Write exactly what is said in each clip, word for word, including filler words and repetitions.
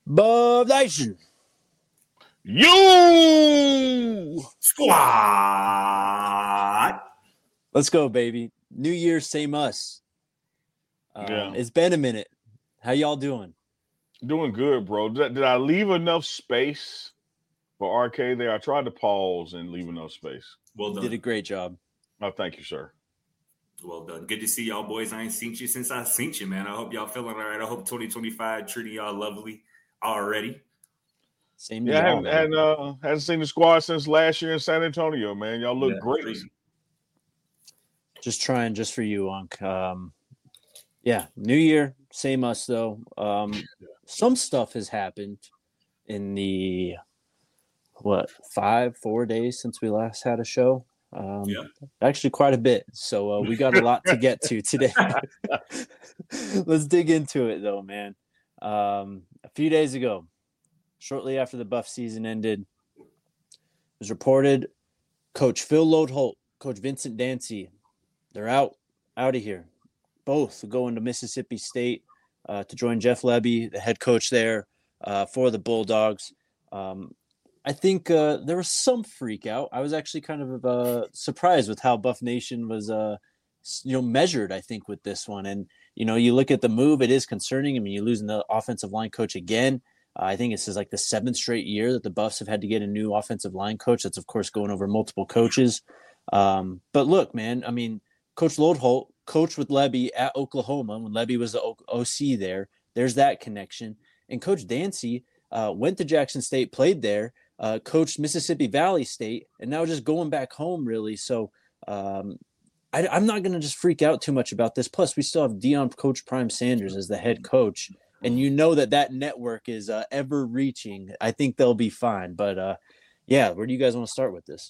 Buff Nation. You Squad. Let's go, baby. New Year, same us. Um, Yeah. It's been a minute. How y'all doing? Doing good, bro. Did, did I leave enough space for R K there? I tried to pause and leave enough space. Well You done. did a great job. Oh, thank you, sir. Well done. Good to see y'all, boys. I ain't seen you since I seen you, man. I hope y'all feeling all right. I hope twenty twenty-five treating y'all lovely already. Same to Yeah, I y'all, haven't, man. hadn't, uh, hadn't seen the squad since last year in San Antonio, man. Y'all look Yeah, great. crazy. Just trying just for you, Unc. Um, yeah, New Year, same us, though. Um, some stuff has happened in the, what, five, four days since we last had a show. Um, Yeah. Actually, quite a bit. So uh, we got a lot to get to today. Let's dig into it, though, man. Um, a few days ago, shortly after the Buff season ended, it was reported Coach Phil Loadholt, Coach Vincent Dancy, they're out, out of here. Both going to Mississippi State uh, to join Jeff Lebby, the head coach there uh, for the Bulldogs. Um, I think uh, there was some freak out. I was actually kind of uh, surprised with how Buff Nation was, uh, you know, measured. I think with this one, and you know, you look at the move, it is concerning. I mean, you're losing the offensive line coach again. Uh, I think this is like the seventh straight year that the Buffs have had to get a new offensive line coach. That's of course going over multiple coaches. Um, but look, man, I mean, Coach Loadholt coached with Lebby at Oklahoma when Lebby was the O C there. There's that connection. And Coach Dancy uh, went to Jackson State, played there. Uh, coached Mississippi Valley State, and now just going back home, really. So um, I, I'm not going to just freak out too much about this. Plus, we still have Deion Coach Prime Sanders as the head coach, and you know that that network is uh, ever reaching. I think they'll be fine. But uh, yeah, where do you guys want to start with this?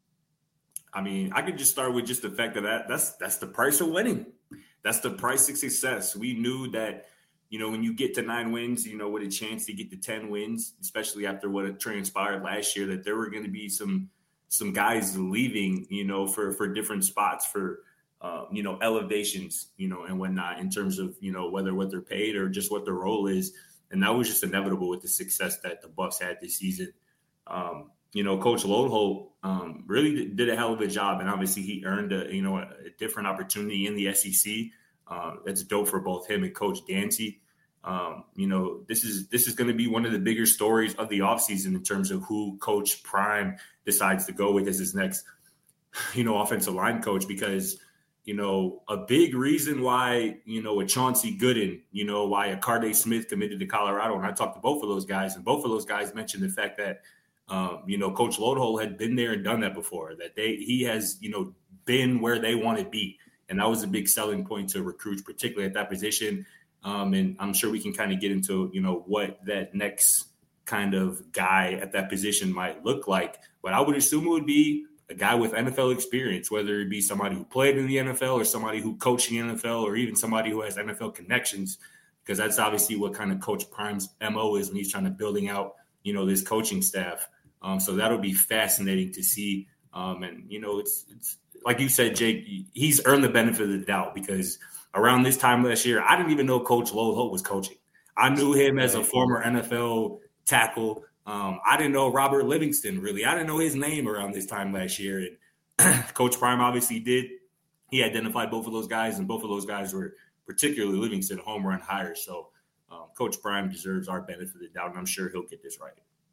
I mean, I could just start with just the fact that, that that's that's the price of winning. That's the price of success. We knew that, you know, when you get to nine wins, you know, with a chance to get to ten wins, especially after what had transpired last year, that there were going to be some some guys leaving, you know, for for different spots, for uh, you know, elevations, you know, and whatnot, in terms of, you know, whether what they're paid or just what their role is. And that was just inevitable with the success that the Buffs had this season. Um, you know, Coach Loadholt um, really did a hell of a job, and obviously he earned a you know a, a different opportunity in the S E C. Uh, that's dope for both him and Coach Dancy. Um, you know, this is this is going to be one of the bigger stories of the offseason in terms of who Coach Prime decides to go with as his next, you know, offensive line coach, because, you know, a big reason why, you know, a Chauncey Gooden, you know, why a Carday Smith committed to Colorado. And I talked to both of those guys, and both of those guys mentioned the fact that, um, you know, Coach Loadholt had been there and done that before, that they he has, you know, been where they want to be. And that was a big selling point to recruits, particularly at that position. Um, and I'm sure we can kind of get into, you know, what that next kind of guy at that position might look like. But I would assume it would be a guy with N F L experience, whether it be somebody who played in the N F L or somebody who coached in the N F L, or even somebody who has N F L connections, because that's obviously what kind of Coach Prime's M O is when he's trying to building out, you know, this coaching staff. Um, so that'll be fascinating to see. Um, and, you know, it's, it's like you said, Jake, he's earned the benefit of the doubt, because around this time last year, I didn't even know Coach Loadholt was coaching. I knew him as a former N F L tackle. Um, I didn't know Robert Livingston, really. I didn't know his name around this time last year. And Coach Prime obviously did. He identified both of those guys, and both of those guys were, particularly Livingston, home run hires. So um, Coach Prime deserves our benefit of the doubt, and I'm sure he'll get this right.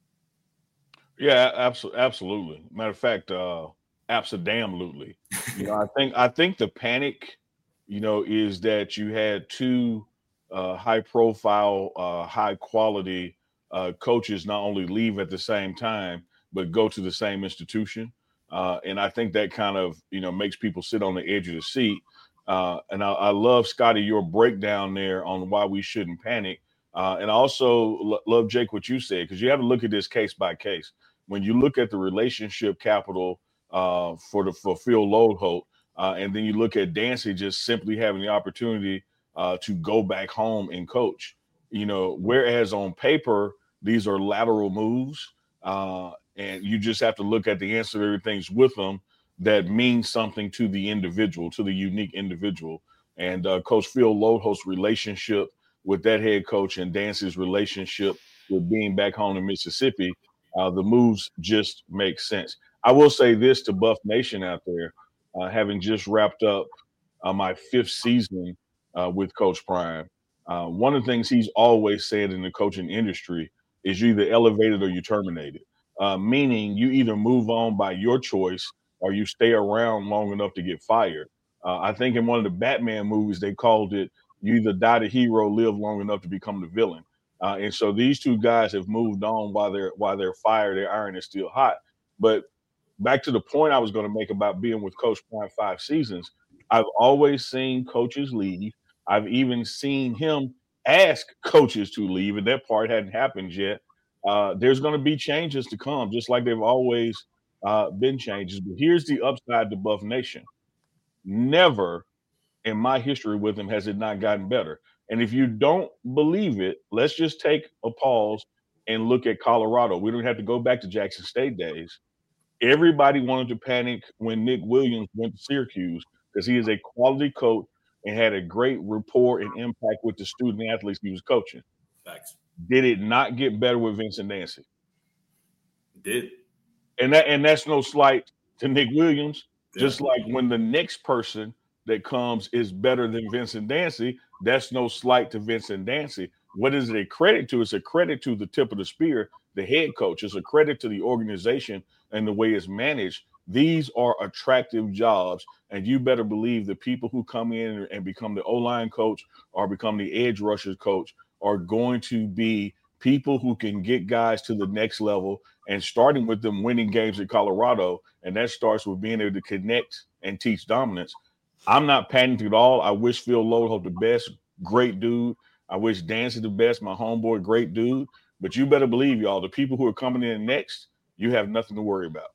Yeah, absolutely, absolutely. Matter of fact, uh, absolutely. You know, I think I think the panic, you know, is that you had two uh, high-profile, uh, high-quality uh, coaches not only leave at the same time, but go to the same institution, uh, and I think that kind of, you know, makes people sit on the edge of the seat. Uh, and I, I love, Scotty, your breakdown there on why we shouldn't panic. Uh, and I also lo- love, Jake, what you said, because you have to look at this case by case. When you look at the relationship capital uh, for the for Phil Loadholt, uh, and then you look at Dancy just simply having the opportunity uh, to go back home and coach, you know, whereas on paper these are lateral moves, uh, and you just have to look at the ancillary things with them that mean something to the individual, to the unique individual. And uh, Coach Phil Loadholt's relationship with that head coach and Dancy's relationship with being back home in Mississippi, uh, the moves just make sense. I will say this to Buff Nation out there, uh, having just wrapped up uh, my fifth season uh, with Coach Prime. Uh, one of the things he's always said in the coaching industry is you either elevated or you terminated, uh, meaning you either move on by your choice or you stay around long enough to get fired. Uh, I think in one of the Batman movies, they called it you either die the hero, live long enough to become the villain. Uh, and so these two guys have moved on while they're while they're fired. Their iron is still hot. But back to the point I was going to make about being with Coach Prime five seasons, I've always seen coaches leave. I've even seen him ask coaches to leave, and that part hadn't happened yet. Uh, there's going to be changes to come, just like they've always uh, been changes. But here's the upside to Buff Nation. Never in my history with him has it not gotten better. And if you don't believe it, let's just take a pause and look at Colorado. We don't have to go back to Jackson State days. Everybody wanted to panic when Nick Williams went to Syracuse because he is a quality coach and had a great rapport and impact with the student athletes he was coaching. Facts. Did it not get better with Vincent Dancy? It did. And that and that's no slight to Nick Williams. Yeah. Just like when the next person that comes is better than Vincent Dancy, that's no slight to Vincent Dancy. What is it a credit to? It's a credit to the tip of the spear, the head coach. It's a credit to the organization and the way it's managed. These are attractive jobs, and you better believe the people who come in and become the O-line coach or become the edge rushers coach are going to be people who can get guys to the next level, and starting with them winning games in Colorado, and that starts with being able to connect and teach dominance. I'm not panicking at all. I wish Phil Lodeholt the best, great dude. I wish Dancy the best, my homeboy, great dude. But you better believe, y'all, the people who are coming in next, you have nothing to worry about.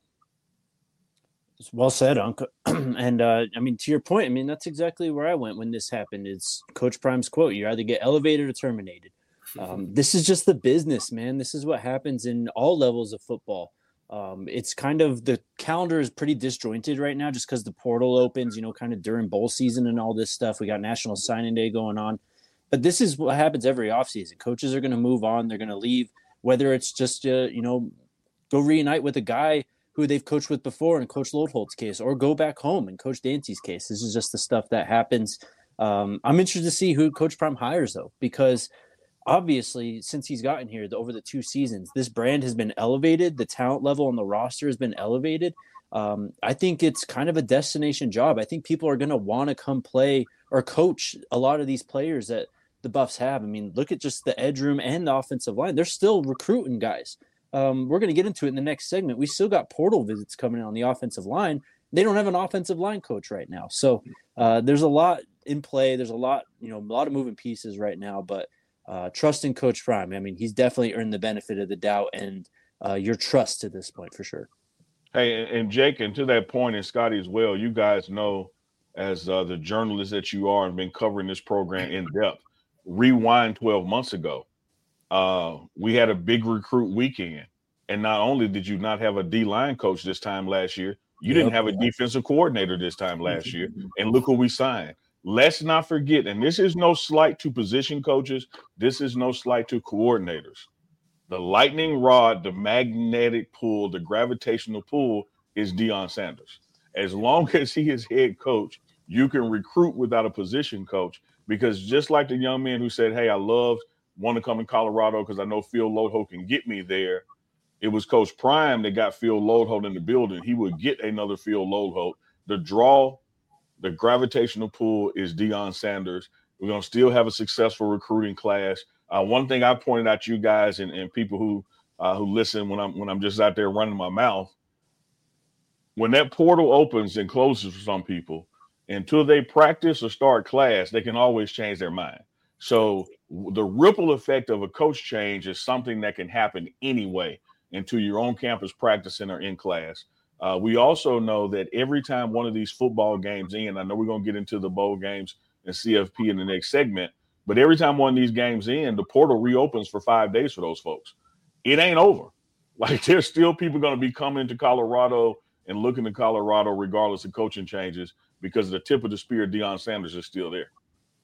It's well said, Uncle. and, uh, I mean, to your point, I mean, that's exactly where I went when this happened. It's Coach Prime's quote, you either get elevated or terminated. Um, this is just the business, man. This is what happens in all levels of football. Um, it's kind of the calendar is pretty disjointed right now just because the portal opens, you know, kind of during bowl season and all this stuff. We got National Signing Day going on. But this is what happens every offseason. Coaches are going to move on. They're going to leave, whether it's just, uh, you know, go reunite with a guy who they've coached with before in Coach Lodeholt's case, or go back home in Coach Dancy's case. This is just the stuff that happens. Um, I'm interested to see who Coach Prime hires, though, because obviously, since he's gotten here the, over the two seasons, this brand has been elevated. The talent level on the roster has been elevated. Um, I think it's kind of a destination job. I think people are going to want to come play or coach a lot of these players that the Buffs have. I mean, look at just the edge room and the offensive line. They're still recruiting guys. Um, we're going to get into it in the next segment. We still got portal visits coming in on the offensive line. They don't have an offensive line coach right now. So uh, there's a lot in play. There's a lot, you know, a lot of moving pieces right now, but Uh, trust in Coach Prime. I mean, he's definitely earned the benefit of the doubt and uh, your trust to this point for sure. Hey, and Jake, and to that point, and Scotty as well, you guys know, as uh, the journalists that you are and been covering this program in depth, rewind twelve months ago, uh, we had a big recruit weekend. And not only did you not have a D-line coach this time last year, you yep. didn't have a defensive coordinator this time last year. And look who we signed. Let's not forget, and this is no slight to position coaches. This is no slight to coordinators. The lightning rod, the magnetic pull, the gravitational pull is Deion Sanders. As long as he is head coach, you can recruit without a position coach, because just like the young man who said, hey, I love, want to come in Colorado because I know Phil Lodeholt can get me there. It was Coach Prime that got Phil Lodeholt in the building. He would get another Phil Lodeholt. The draw, the gravitational pull is Deion Sanders. We're going to still have a successful recruiting class. Uh, one thing I pointed out to you guys and, and people who uh, who listen when I'm when I'm just out there running my mouth, when that portal opens and closes for some people, until they practice or start class, they can always change their mind. So the ripple effect of a coach change is something that can happen anyway into your own campus practicing or in class. Uh, we also know that every time one of these football games in, I know we're going to get into the bowl games and C F P in the next segment, but every time one of these games in, the portal reopens for five days for those folks. It ain't over. Like, there's still people going to be coming to Colorado and looking to Colorado regardless of coaching changes, because the tip of the spear, Deion Sanders, is still there.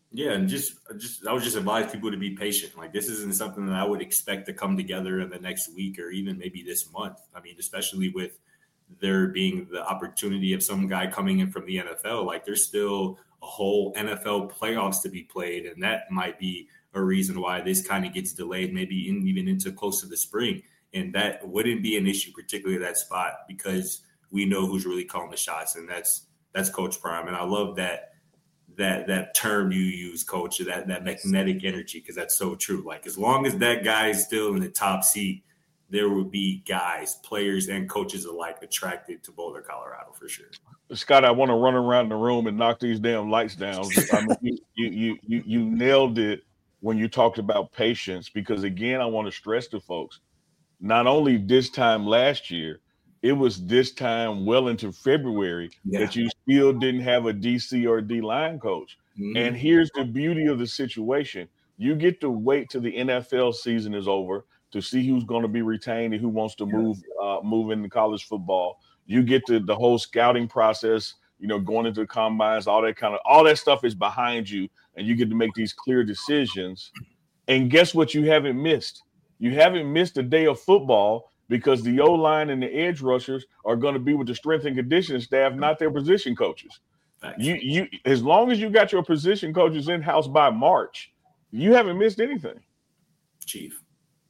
Yeah, and just just I would just advise people to be patient. Like this isn't something that I would expect to come together in the next week or even maybe this month. I mean, especially with there being the opportunity of some guy coming in from the N F L. Like there's still a whole N F L playoffs to be played, and that might be a reason why this kind of gets delayed, maybe in, even into close to the spring. And that wouldn't be an issue, particularly that spot, because we know who's really calling the shots, and that's that's Coach Prime. And I love that. that that term you use, Coach, that that magnetic energy, because that's so true. Like as long as that guy is still in the top seat, there will be guys, players, and coaches alike attracted to Boulder, Colorado, for sure. Scott, I want to run around the room and knock these damn lights down. I mean, you, you you you nailed it when you talked about patience, because again, I want to stress to folks, not only this time last year, it was this time well into February yeah. that you still didn't have a D C or D line coach. Mm-hmm. And here's the beauty of the situation. You get to wait till the N F L season is over to see who's going to be retained and who wants to move uh, move into college football. You get to the whole scouting process, you know, going into the combines, all that kind of, all that stuff is behind you, and you get to make these clear decisions. And guess what you haven't missed? You haven't missed a day of football, because the O-line and the edge rushers are going to be with the strength and conditioning staff, not their position coaches. Thanks. You, you, as long as you got your position coaches in-house by March, you haven't missed anything. Chief.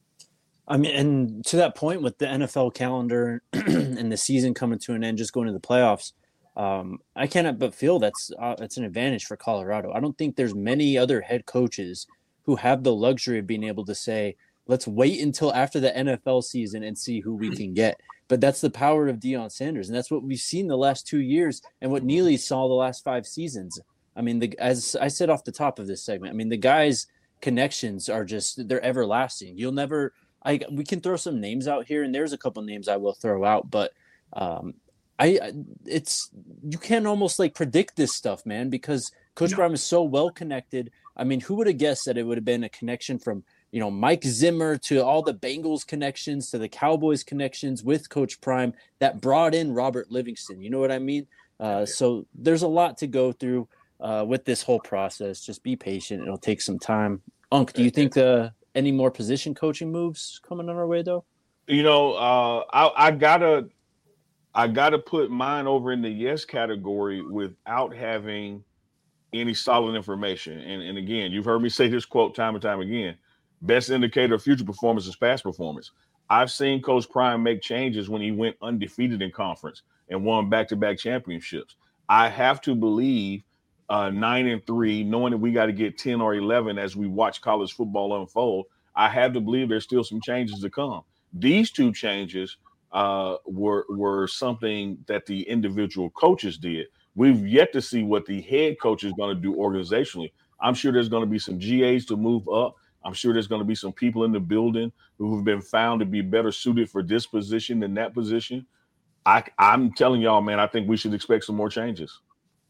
I mean, and to that point with the N F L calendar and the season coming to an end, just going to the playoffs, um, I cannot but feel that's uh, it's an advantage for Colorado. I don't think there's many other head coaches who have the luxury of being able to say, let's wait until after the N F L season and see who we can get. But that's the power of Deion Sanders, and that's what we've seen the last two years and what Neely saw the last five seasons. I mean, the, as I said off the top of this segment, I mean, the guys' connections are just, they're everlasting. You'll never I, – we can throw some names out here, and there's a couple names I will throw out, but um, I it's – you can almost, like, predict this stuff, man, because Coach no. Prime is so well-connected. I mean, who would have guessed that it would have been a connection from – you know, Mike Zimmer to all the Bengals connections to the Cowboys connections with Coach Prime that brought in Robert Livingston. You know what I mean? Uh, so there's a lot to go through uh, with this whole process. Just be patient. It'll take some time. Unc, do you think uh, any more position coaching moves coming on our way, though? You know, uh, I, I gotta, I gotta put mine over in the yes category without having any solid information. And, and again, you've heard me say this quote time and time again. Best indicator of future performance is past performance. I've seen Coach Prime make changes when he went undefeated in conference and won back-to-back championships. I have to believe uh, nine and three, knowing that we got to get ten or eleven as we watch college football unfold, I have to believe there's still some changes to come. These two changes uh, were were something that the individual coaches did. We've yet to see what the head coach is going to do organizationally. I'm sure there's going to be some G As to move up. I'm sure there's going to be some people in the building who have been found to be better suited for this position than that position. I, I'm telling y'all, man, I think we should expect some more changes.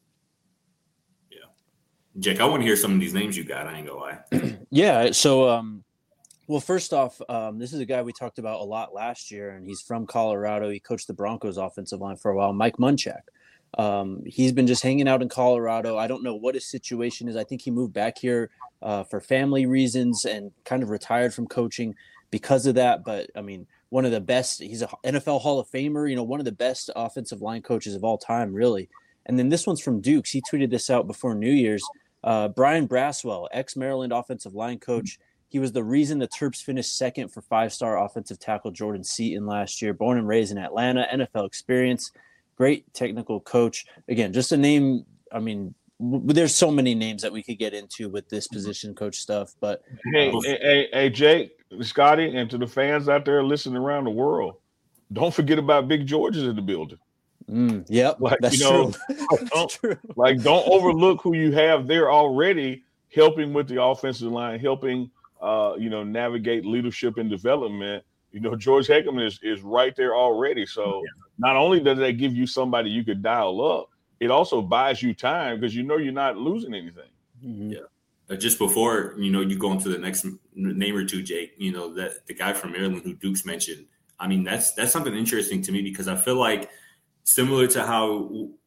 Yeah. Jake, I want to hear some of these names you got. I ain't gonna lie. yeah. So, um, well, first off, um, this is a guy we talked about a lot last year, and he's from Colorado. He coached the Broncos offensive line for a while, Mike Munchak. Um, he's been just hanging out in Colorado. I don't know what his situation is. I think he moved back here uh, for family reasons and kind of retired from coaching because of that. But I mean, one of the best, he's an N F L Hall of Famer, you know, one of the best offensive line coaches of all time, really. And then this one's from Dukes. He tweeted this out before New Year's. Uh, Brian Braswell, ex-Maryland offensive line coach. He was the reason the Terps finished second for five-star offensive tackle Jordan Seaton last year. Born and raised in Atlanta, N F L experience. Great technical coach. Again, just a name. I mean, w- there's so many names that we could get into with this position coach stuff. But hey, um, hey, hey, hey, Jake, Scotty, and to the fans out there listening around the world, don't forget about Big George is in the building. Mm, yep, like that's you know, true. like, don't, true. like don't overlook who you have there already, helping with the offensive line, helping uh, you know navigate leadership and development. You know, George Heckman is is right there already. So yeah. Not only does that give you somebody you could dial up, it also buys you time because you know you're not losing anything. Mm-hmm. Yeah. Uh, just before, you know, you go into the next name or two, Jake, you know, that the guy from Maryland who Dukes mentioned, I mean, that's that's something interesting to me because I feel like similar to how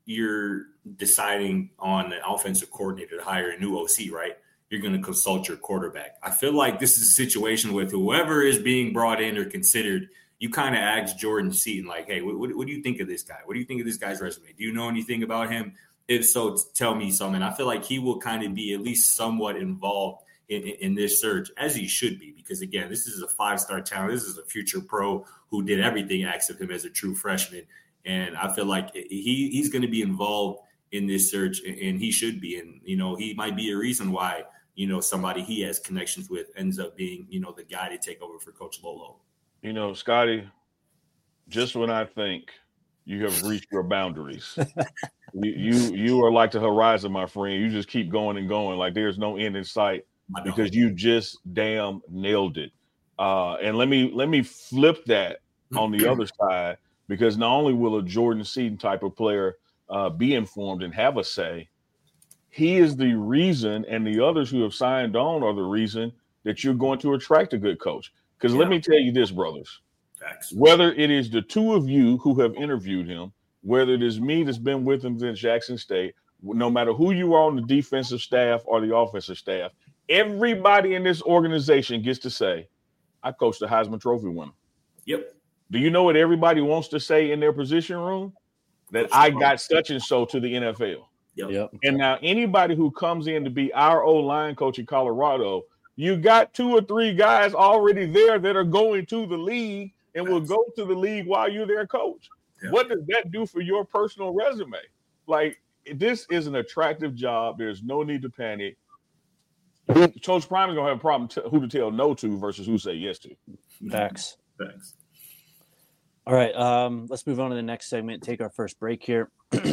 you're deciding on an offensive coordinator to hire a new O C, right? You're going to consult your quarterback. I feel like this is a situation with whoever is being brought in or considered, you kind of ask Jordan Seaton, like, hey, what, what, what do you think of this guy? What do you think of this guy's resume? Do you know anything about him? If so, tell me something. I feel like he will kind of be at least somewhat involved in, in, in this search, as he should be, because, again, this is a five-star talent. This is a future pro who did everything except him as a true freshman. And I feel like he he's going to be involved in this search, and he should be. And, you know, he might be a reason why, you know, somebody he has connections with ends up being, you know, the guy to take over for Coach Lolo. You know, Scotty, just when I think you have reached your boundaries, you, you you are like the horizon, my friend. You just keep going and going. Like there's no end in sight because you just damn nailed it. Uh, and let me let me flip that on the other side, because not only will a Jordan Seaton type of player uh, be informed and have a say, he is the reason, and the others who have signed on are the reason that you're going to attract a good coach. Because yeah. let me tell you this, brothers. Facts. Whether it is the two of you who have interviewed him, whether it is me that's been with him since Jackson State, no matter who you are on the defensive staff or the offensive staff, everybody in this organization gets to say, I coached the Heisman Trophy winner. Yep. Do you know what everybody wants to say in their position room? That I got such and so to the N F L. Yep. Yep. And now anybody who comes in to be our O-line coach in Colorado, you got two or three guys already there that are going to the league and will go to the league while you're their coach. Yep. What does that do for your personal resume? Like, this is an attractive job. There's no need to panic. Coach Prime is going to have a problem t- who to tell no to versus who say yes to. Facts. Facts. All right, um, let's move on to the next segment. Take our first break here.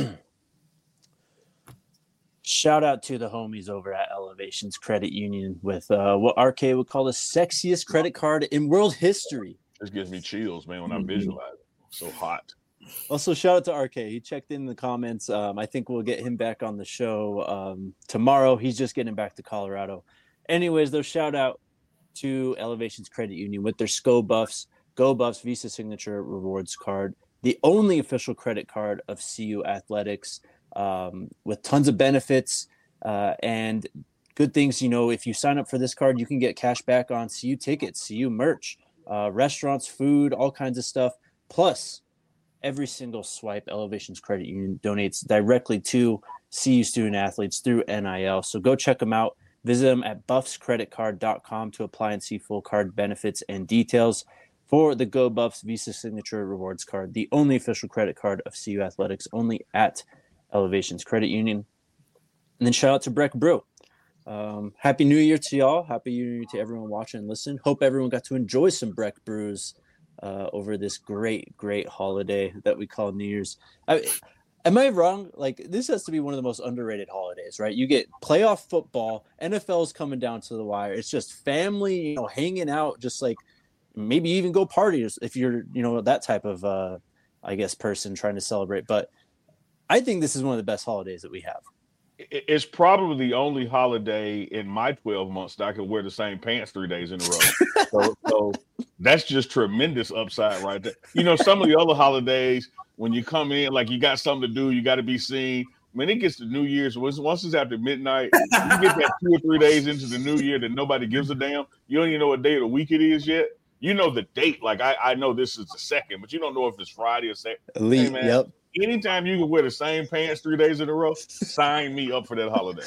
Shout out to the homies over at Elevations Credit Union with uh, what R K would call the sexiest credit card in world history. This gives me chills, man, when I visualize it. So hot. Also, shout out to R K. He checked in the comments. Um, I think we'll get him back on the show um, tomorrow. He's just getting back to Colorado. Anyways, though, shout out to Elevations Credit Union with their S C O Buffs, Go Buffs Visa Signature Rewards Card, the only official credit card of C U Athletics, um, with tons of benefits uh, and good things. You know, if you sign up for this card, you can get cash back on C U tickets, C U merch, uh, restaurants, food, all kinds of stuff. Plus, every single swipe, Elevations Credit Union donates directly to C U student athletes through N I L. So go check them out. Visit them at buffs credit card dot com to apply and see full card benefits and details for the Go Buffs Visa Signature Rewards Card, the only official credit card of C U Athletics, only at Elevations Credit Union. And then shout out to Breck Brew. Um, Happy New Year to y'all. Happy New Year to everyone watching and listening. Hope everyone got to enjoy some Breck Brews uh, over this great, great holiday that we call New Year's. I, am I wrong? Like, this has to be one of the most underrated holidays, right? You get playoff football, N F L is coming down to the wire. It's just family, you know, hanging out, just like maybe even go parties if you're, you know, that type of, uh, I guess, person trying to celebrate. But I think this is one of the best holidays that we have. It's probably the only holiday in my twelve months that I can wear the same pants three days in a row. so, so that's just tremendous upside right there. You know, some of the other holidays, when you come in, like you got something to do, you got to be seen. When it gets to New Year's, once it's after midnight, you get that two or three days into the new year that nobody gives a damn. You don't even know what day of the week it is yet. You know the date. Like, I, I know this is the second, but you don't know if it's Friday or Saturday. Elite, hey, man, yep. Anytime you can wear the same pants three days in a row, sign me up for that holiday.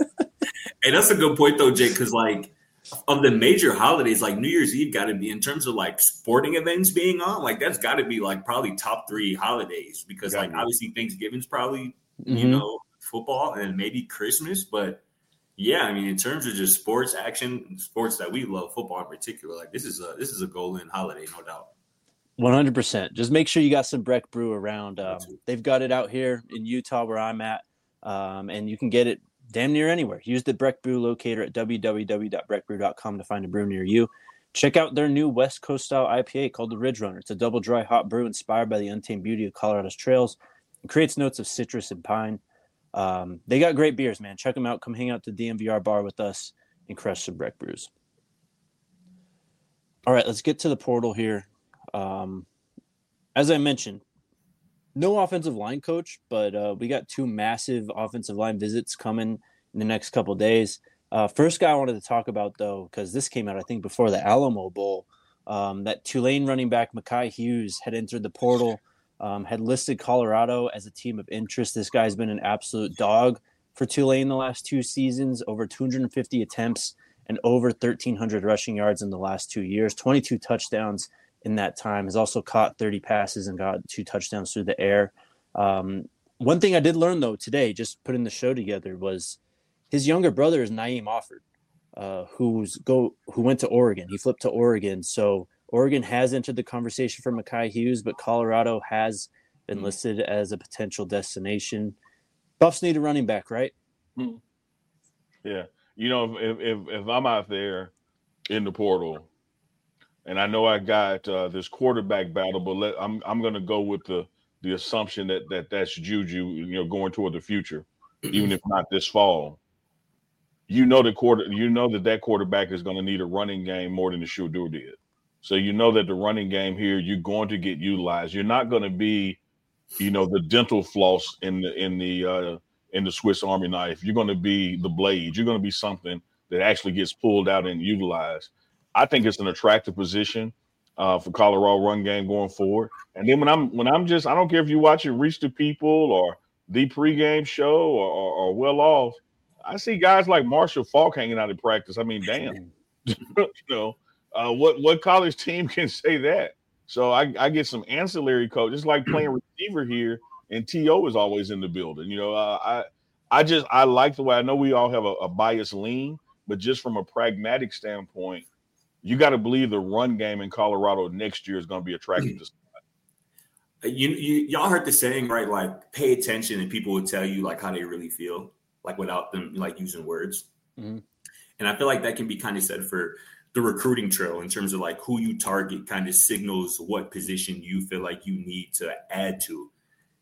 Hey, that's a good point, though, Jake, because, like, of the major holidays, like New Year's Eve got to be, in terms of, like, sporting events being on, like, that's got to be, like, probably top three holidays because, like, obviously Thanksgiving's probably, mm-hmm. you know, football and maybe Christmas. But, yeah, I mean, in terms of just sports action, sports that we love, football in particular, like, this is a this is a golden holiday, no doubt. one hundred percent. Just make sure you got some Breck Brew around. Um, they've got it out here in Utah where I'm at, um, and you can get it damn near anywhere. Use the Breck Brew locator at w w w dot breck brew dot com to find a brew near you. Check out their new West Coast style I P A called the Ridge Runner. It's a double dry hot brew inspired by the untamed beauty of Colorado's trails. It creates notes of citrus and pine. Um, they got great beers, man. Check them out. Come hang out to the D M V R bar with us and crush some Breck Brews. All right, let's get to the portal here. Um, as I mentioned, no offensive line coach, but uh, we got two massive offensive line visits coming in the next couple of days. Uh, first guy I wanted to talk about, though, because this came out, I think, before the Alamo Bowl, um, that Tulane running back Mekhi Hughes had entered the portal, um, had listed Colorado as a team of interest. This guy's been an absolute dog for Tulane the last two seasons, over two hundred fifty attempts and over thirteen hundred rushing yards in the last two years, twenty-two touchdowns in that time. Has also caught thirty passes and got two touchdowns through the air. Um, one thing I did learn, though, today, just putting the show together, was his younger brother is Naeem Offord, uh, who's go who went to Oregon. He flipped to Oregon. So Oregon has entered the conversation for Mekhi Hughes, but Colorado has been listed as a potential destination. Buffs need a running back, right? Yeah. You know, if if, if I'm out there in the portal and I know I got uh, this quarterback battle, but let, I'm I'm going to go with the the assumption that that that's Juju, you know, going toward the future, even if not this fall. You know the quarter. You know that that quarterback is going to need a running game more than the Shedeur did. So you know that the running game here, you're going to get utilized. You're not going to be, you know, the dental floss in the in the uh, in the Swiss Army knife. You're going to be the blade. You're going to be something that actually gets pulled out and utilized. I think it's an attractive position uh, for Colorado run game going forward. And then when I'm when I'm just, I don't care if you watch it, Reach the People or the pregame show or, or, or Well Off. I see guys like Marshall Faulk hanging out at practice. I mean, damn, you know, uh, what what college team can say that? So I, I get some ancillary coach. It's like playing receiver here, and T O is always in the building. You know, uh, I I just I like the way, I know we all have a, a biased lean, but just from a pragmatic standpoint, you got to believe the run game in Colorado next year is going to be attractive to You, you y'all heard the saying, right? Like, pay attention, and people will tell you like how they really feel, like without them like using words. Mm-hmm. And I feel like that can be kind of said for the recruiting trail in terms of like who you target kind of signals what position you feel like you need to add to.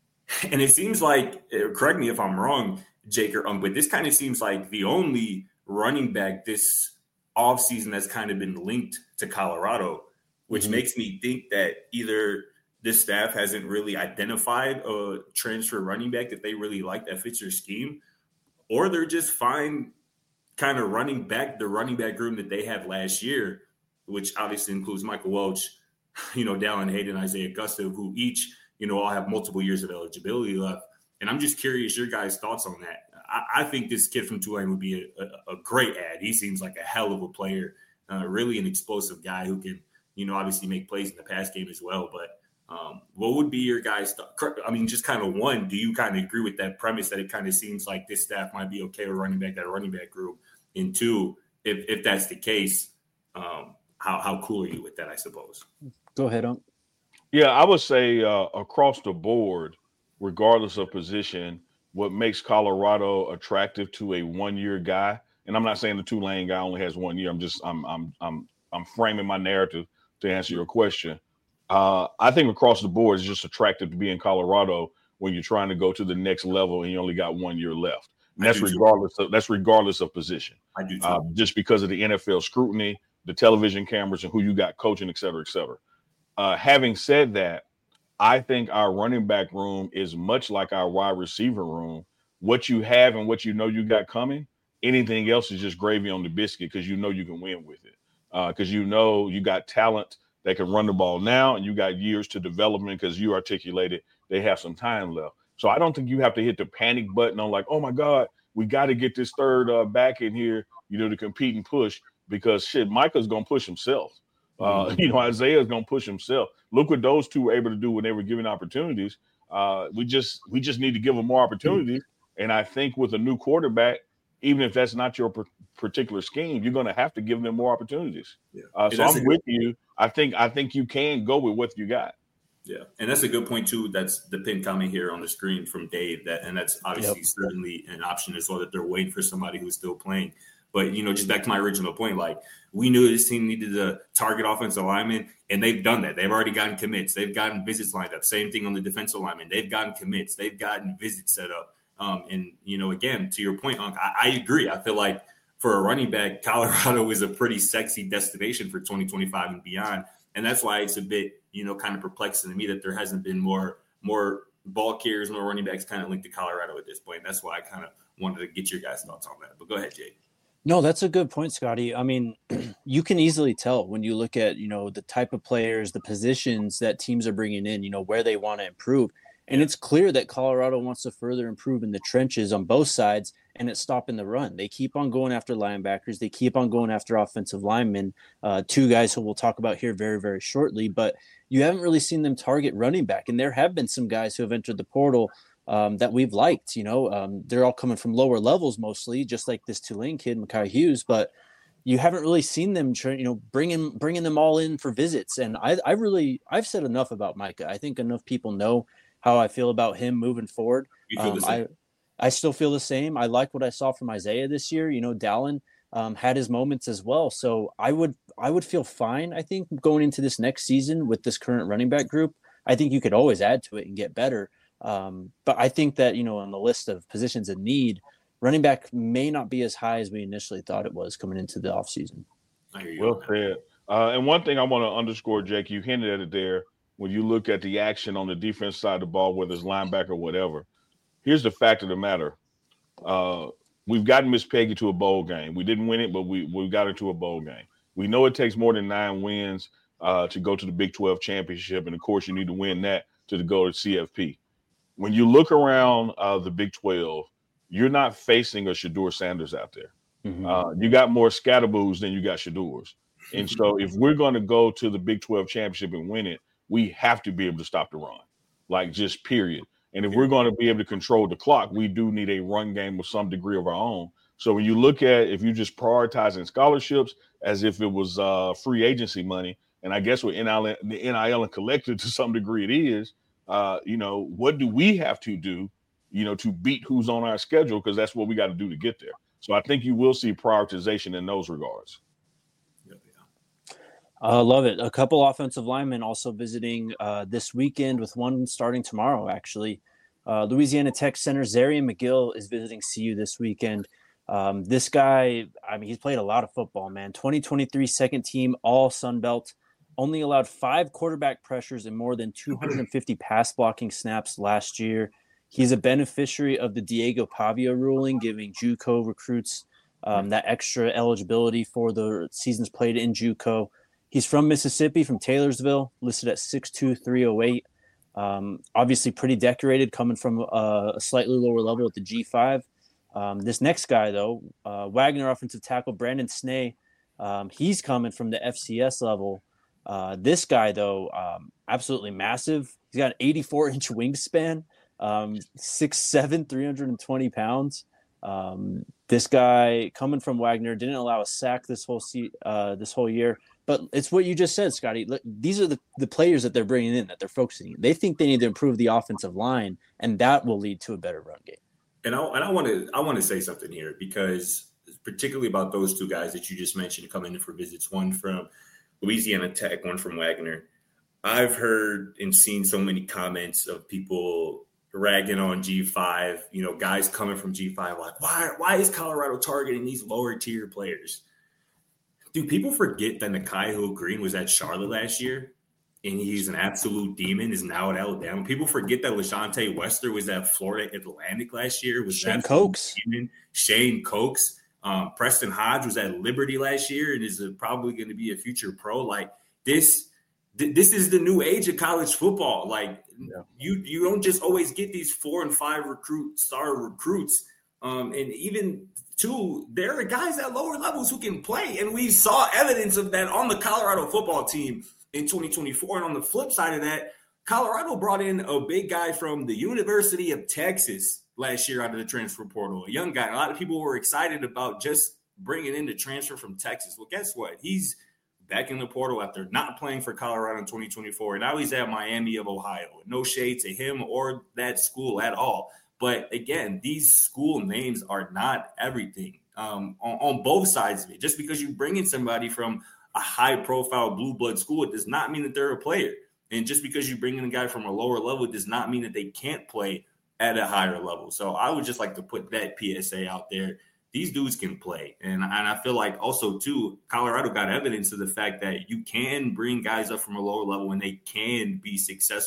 And it seems like, correct me if I'm wrong, Jake or um, but this kind of seems like the only running back this offseason that's kind of been linked to Colorado, which mm-hmm. makes me think that either this staff hasn't really identified a transfer running back that they really like that fits their scheme, or they're just fine kind of running back the running back room that they had last year, which obviously includes Michael Welch, you know, Dallin Hayden, Isaiah Gustav, who each, you know, all have multiple years of eligibility left. And I'm just curious your guys' thoughts on that. I, I think this kid from Tulane would be a, a, a great add. He seems like a hell of a player, uh, really an explosive guy who can, you know, obviously make plays in the pass game as well. But Um, what would be your guys' th- I mean, just kind of one, do you kind of agree with that premise that it kind of seems like this staff might be okay with running back, that running back group? And two, if, if that's the case, um, how, how cool are you with that, I suppose? Go ahead, Unc. Yeah, I would say uh, across the board, regardless of position, what makes Colorado attractive to a one-year guy, and I'm not saying the Tulane guy only has one year. I'm just I'm I'm I'm I'm framing my narrative to answer your question. Uh, I think across the board, it's just attractive to be in Colorado when you're trying to go to the next level and you only got one year left. And that's regardless too. of that's regardless of position. I do too. Uh, just because of the N F L scrutiny, the television cameras, and who you got coaching, et cetera, et cetera. Uh, having said that, I think our running back room is much like our wide receiver room. What you have and what you know you got coming, anything else is just gravy on the biscuit because you know you can win with it. Because uh, you know you got talent that can run the ball now, and you got years to development because you articulated they have some time left. So I don't think you have to hit the panic button on like, oh my God, we got to get this third uh, back in here, you know, to compete and push, because shit, Micah's going to push himself. Uh, mm-hmm. You know, Isaiah's going to push himself. Look what those two were able to do when they were given opportunities. Uh, we just we just need to give them more opportunities. Mm-hmm. And I think with a new quarterback, even if that's not your particular scheme, you're going to have to give them more opportunities. Yeah. Uh, so I'm with you. I think I think you can go with what you got. Yeah, and that's a good point too. That's the pin comment here on the screen from Dave. That and that's obviously yep. certainly an option as well, that they're waiting for somebody who's still playing. But you know, just back to my original point, like we knew this team needed a target offensive lineman, and they've done that. They've already gotten commits. They've gotten visits lined up. Same thing on the defensive lineman. They've gotten commits. They've gotten visits set up. Um, and you know, again, to your point, Unc, I, I agree. I feel like for a running back, Colorado is a pretty sexy destination for twenty twenty-five and beyond. And that's why it's a bit, you know, kind of perplexing to me that there hasn't been more, more ball carriers, more running backs kind of linked to Colorado at this point. That's why I kind of wanted to get your guys' thoughts on that. But go ahead, Jake. No, that's a good point, Scotty. I mean, you can easily tell when you look at, you know, the type of players, the positions that teams are bringing in, you know, where they want to improve. And it's clear that Colorado wants to further improve in the trenches on both sides, and it's stopping the run. They keep on going after linebackers. They keep on going after offensive linemen, uh, two guys who we'll talk about here very, very shortly. But you haven't really seen them target running back. And there have been some guys who have entered the portal Um, that we've liked, you know, um, they're all coming from lower levels mostly, just like this Tulane kid, Mekhi Hughes, but you haven't really seen them, try, you know, bringing bringing them all in for visits. And I, I really, I've said enough about Micah. I think enough people know how I feel about him moving forward. You feel Um, the same? I, I still feel the same. I like what I saw from Isaiah this year. You know, Dallin um, had his moments as well. So I would, I would feel fine, I think, going into this next season with this current running back group. I think you could always add to it and get better. Um, but I think that, you know, on the list of positions in need, running back may not be as high as we initially thought it was coming into the offseason. I hear you. Well said. Uh, and one thing I want to underscore, Jake, you hinted at it there. When you look at the action on the defense side of the ball, whether it's linebacker or whatever, here's the fact of the matter. Uh, we've gotten Miss Peggy to a bowl game. We didn't win it, but we, we got her to a bowl game. We know it takes more than nine wins uh, to go to the Big twelve championship. And, of course, you need to win that to go to C F P. When you look around uh, the Big twelve, you're not facing a Shedeur Sanders out there. Mm-hmm. Uh, you got more Scatterboos than you got Shedeurs. And so if we're going to go to the Big twelve championship and win it, we have to be able to stop the run, like just period. And if we're going to be able to control the clock, we do need a run game with some degree of our own. So when you look at, if you just prioritizing scholarships as if it was uh, free agency money, and I guess with N I L, the N I L and collected to some degree it is, Uh, you know, what do we have to do, you know, to beat who's on our schedule? Because that's what we got to do to get there. So I think you will see prioritization in those regards. I uh, love it. A couple offensive linemen also visiting uh, this weekend, with one starting tomorrow, actually. Uh, Louisiana Tech center Zarian McGill is visiting C U this weekend. Um, this guy, I mean, he's played a lot of football, man. twenty twenty-three second team, all Sun Belt. Only allowed five quarterback pressures and more than two hundred fifty pass blocking snaps last year. He's a beneficiary of the Diego Pavia ruling, giving JUCO recruits um, that extra eligibility for the seasons played in JUCO. He's from Mississippi, from Taylorsville, listed at six two, three oh eight. Um, obviously pretty decorated, coming from a, a slightly lower level at the G five. Um, this next guy, though, uh, Wagner offensive tackle Brandon Snee, um, he's coming from the F C S level. Uh, this guy, though, um, absolutely massive. He's got an eighty-four inch wingspan, um, six seven, three hundred twenty pounds. Um, this guy coming from Wagner didn't allow a sack this whole se- uh, this whole year. But it's what you just said, Scotty. Look, these are the, the players that they're bringing in, that they're focusing. They think they need to improve the offensive line, and that will lead to a better run game. And I and I want to I want to say something here, because particularly about those two guys that you just mentioned coming in for visits, one from Louisiana Tech, one from Wagner. I've heard and seen so many comments of people ragging on G five, you know, guys coming from G five, like, why, why is Colorado targeting these lower tier players? Do people forget that Nikhai Green was at Charlotte last year and he's an absolute demon, is now at Alabama? People forget that LaShante Wester was at Florida Atlantic last year. Was Shane Cokes. Demon. Shane Cokes. Um, Preston Hodge was at Liberty last year and is a, probably going to be a future pro. Like this, th- this is the new age of college football. Like yeah. you, you don't just always get these four and five recruit star recruits. Um, and even two, there are guys at lower levels who can play. And we saw evidence of that on the Colorado football team in twenty twenty-four. And on the flip side of that, Colorado brought in a big guy from the University of Texas last year out of the transfer portal, a young guy. A lot of people were excited about just bringing in the transfer from Texas. Well, guess what? He's back in the portal after not playing for Colorado in twenty twenty-four. And now he's at Miami of Ohio. No shade to him or that school at all. But again, these school names are not everything um, on, on both sides of it. Just because you bring in somebody from a high-profile blue blood school, it does not mean that they're a player. And just because you bring in a guy from a lower level, it does not mean that they can't play at a higher level. So I would just like to put that P S A out there. These dudes can play. And, and I feel like also, too, Colorado got evidence of the fact that you can bring guys up from a lower level and they can be successful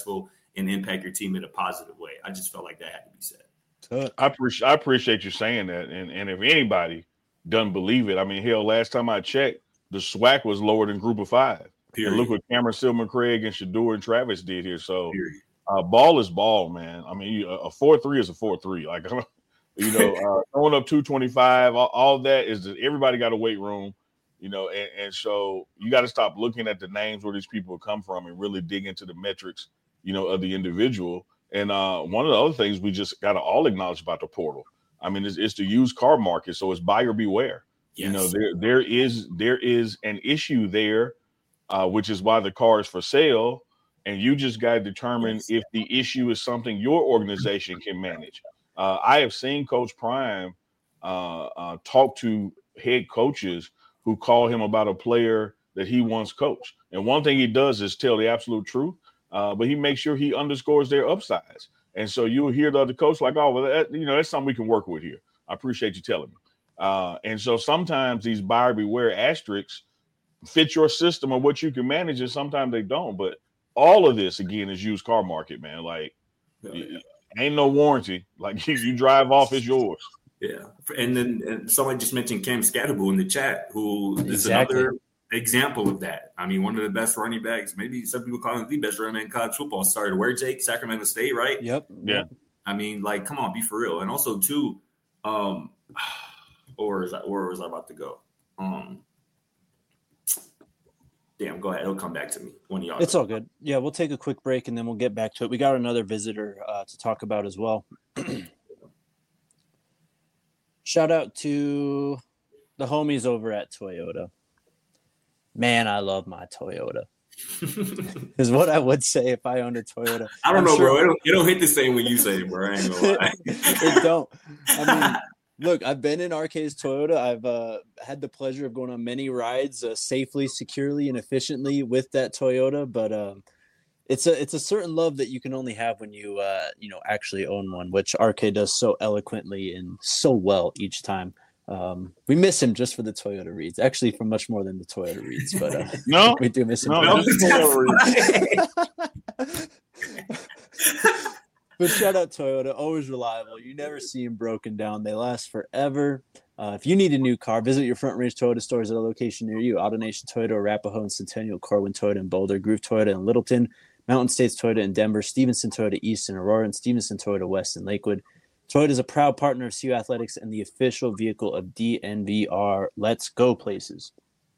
and impact your team in a positive way. I just felt like that had to be said. I appreciate I appreciate you saying that. And and if anybody doesn't believe it, I mean, hell, last time I checked, the SWAC was lower than Group of Five. Period. And look what Cameron Silman Craig and Shador and Travis did here. So uh, ball is ball, man. I mean, a four three is a four three. Like, you know, uh, throwing up two twenty-five, all, all that is that everybody got a weight room, you know, and, and so you got to stop looking at the names where these people come from and really dig into the metrics, you know, of the individual. And uh, one of the other things we just got to all acknowledge about the portal, I mean, it's, it's the used car market. So it's buyer beware. Yes. You know, there there is there is an issue there. Uh, which is why the car is for sale, and you just got to determine yes. if the issue is something your organization can manage. Uh, I have seen Coach Prime uh, uh, talk to head coaches who call him about a player that he once coached. And one thing he does is tell the absolute truth, uh, but he makes sure he underscores their upsides. And so you'll hear the other coach like, oh, well, that, you know, that's something we can work with here. I appreciate you telling me. Uh, and so sometimes these buyer beware asterisks fit your system or what you can manage, and sometimes they don't. But all of this again is used car market, man. Like, oh, yeah. ain't no warranty. Like, you, you drive off, it's yours. Yeah, and then and somebody just mentioned Cam Scatterbull in the chat, who is exactly. another example of that. I mean, one of the best running backs. Maybe some people call him the best running back in college football. Started where, Jake? Sacramento State, right? Yep. Yeah. I mean, like, come on, be for real. And also, too, um, or is that where was I about to go? Um. Damn, go ahead. It'll come back to me. One of y'all. It's all good. Yeah, we'll take a quick break and then we'll get back to it. We got another visitor uh, to talk about as well. Shout out to the homies over at Toyota. Man, I love my Toyota. Is what I would say if I owned a Toyota. I don't I'm know, sure bro. It don't, it don't hit the same when you say it, bro. I ain't gonna lie. It don't. I mean, look, I've been in R K's Toyota. I've uh, had the pleasure of going on many rides uh, safely, securely, and efficiently with that Toyota. But um, it's a it's a certain love that you can only have when you uh, you know actually own one, which R K does so eloquently and so well each time. Um, we miss him just for the Toyota reads, actually, for much more than the Toyota reads. But uh, no, we do miss him. No, But shout out Toyota, always reliable. You never see them broken down. They last forever. Uh, if you need a new car, visit your Front Range Toyota stores at a location near you. AutoNation Toyota, Arapahoe and Centennial, Corwin Toyota in Boulder, Groove Toyota in Littleton, Mountain States Toyota in Denver, Stevenson Toyota East in Aurora, and Stevenson Toyota West in Lakewood. Toyota is a proud partner of C U Athletics and the official vehicle of D N V R. Let's go places.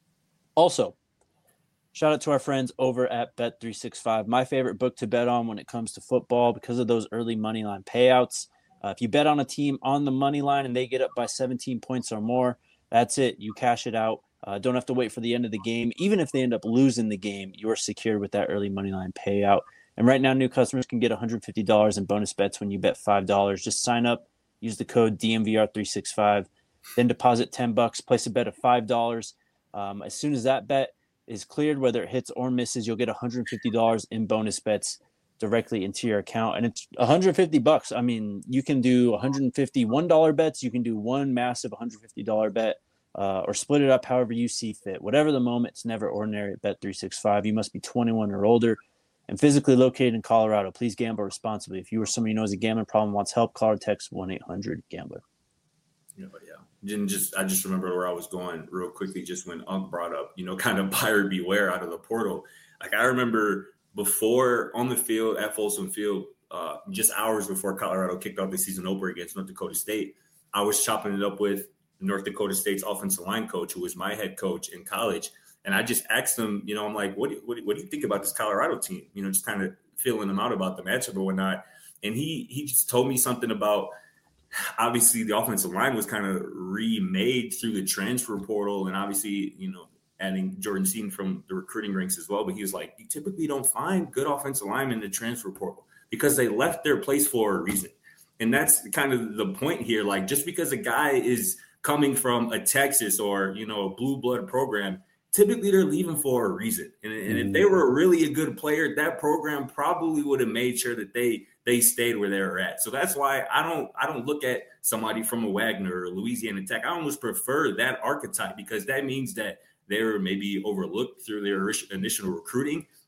Also, shout out to our friends over at Bet three sixty-five, my favorite book to bet on when it comes to football because of those early money line payouts. Uh, if you bet on a team on the money line and they get up by seventeen points or more, that's it. You cash it out. Uh, don't have to wait for the end of the game. Even if they end up losing the game, you're secured with that early money line payout. And right now, new customers can get one hundred fifty dollars in bonus bets when you bet five dollars. Just sign up, use the code D M V R three sixty-five, then deposit ten bucks, place a bet of five dollars. Um, as soon as that bet is cleared, whether it hits or misses, you'll get one hundred fifty dollars in bonus bets directly into your account. And it's one hundred fifty bucks. I mean, you can do one hundred fifty one dollar bets. You can do one massive one hundred fifty dollars bet uh, or split it up however you see fit. Whatever the moment, it's never ordinary at Bet three sixty-five. You must be twenty-one or older and physically located in Colorado. Please gamble responsibly. If you or somebody who knows a gambling problem wants help, call or text one eight hundred gambler. Yeah, but yeah. Didn't just I just remember where I was going real quickly just when Unc brought up, you know, kind of buyer beware out of the portal. Like I remember before on the field at Folsom Field, uh, just hours before Colorado kicked off the season opener against North Dakota State, I was chopping it up with North Dakota State's offensive line coach, who was my head coach in college. And I just asked him, you know, I'm like, what do, what do, what do you think about this Colorado team? You know, just kind of feeling them out about the matchup or whatnot. And he he just told me something about, obviously the offensive line was kind of remade through the transfer portal and obviously, you know, adding Jordan Seaton from the recruiting ranks as well. But he was like, you typically don't find good offensive linemen in the transfer portal because they left their place for a reason. And that's kind of the point here. Like just because a guy is coming from a Texas or, you know, a blue blood program, typically they're leaving for a reason. And, and if they were really a good player, that program probably would have made sure that they they stayed where they were at. So that's why I don't I don't look at somebody from a Wagner or Louisiana Tech. I almost prefer that archetype because that means that they were maybe overlooked through their initial recruiting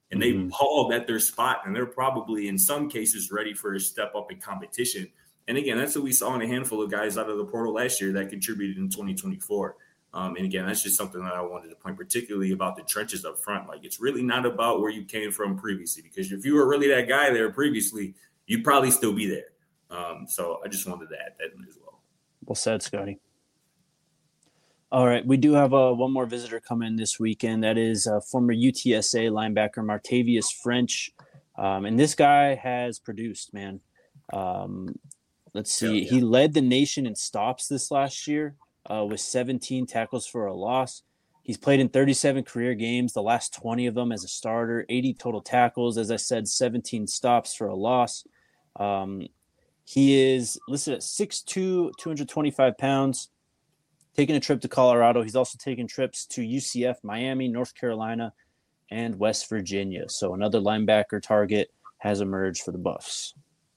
and they mm-hmm. balled at their spot, and they're probably in some cases ready for a step up in competition. And again, that's what we saw in a handful of guys out of the portal last year that contributed in twenty twenty-four. Um, and again, that's just something that I wanted to point particularly about the trenches up front. Like, it's really not about where you came from previously, because if you were really that guy there previously, you'd probably still be there. Um, so I just wanted to add that in as well. Well said, Scotty. All right, we do have uh, one more visitor come in this weekend. That is uh, former U T S A linebacker Martavius French. Um, and this guy has produced, man. Um, let's see. Yeah, yeah. He led the nation in stops this last year. Uh, with seventeen tackles for a loss. He's played in thirty-seven career games, the last twenty of them as a starter, eighty total tackles. As I said, seventeen stops for a loss. Um, he is listed at six two, two hundred twenty-five pounds, taking a trip to Colorado. He's also taken trips to U C F, Miami, North Carolina, and West Virginia. So another linebacker target has emerged for the Buffs.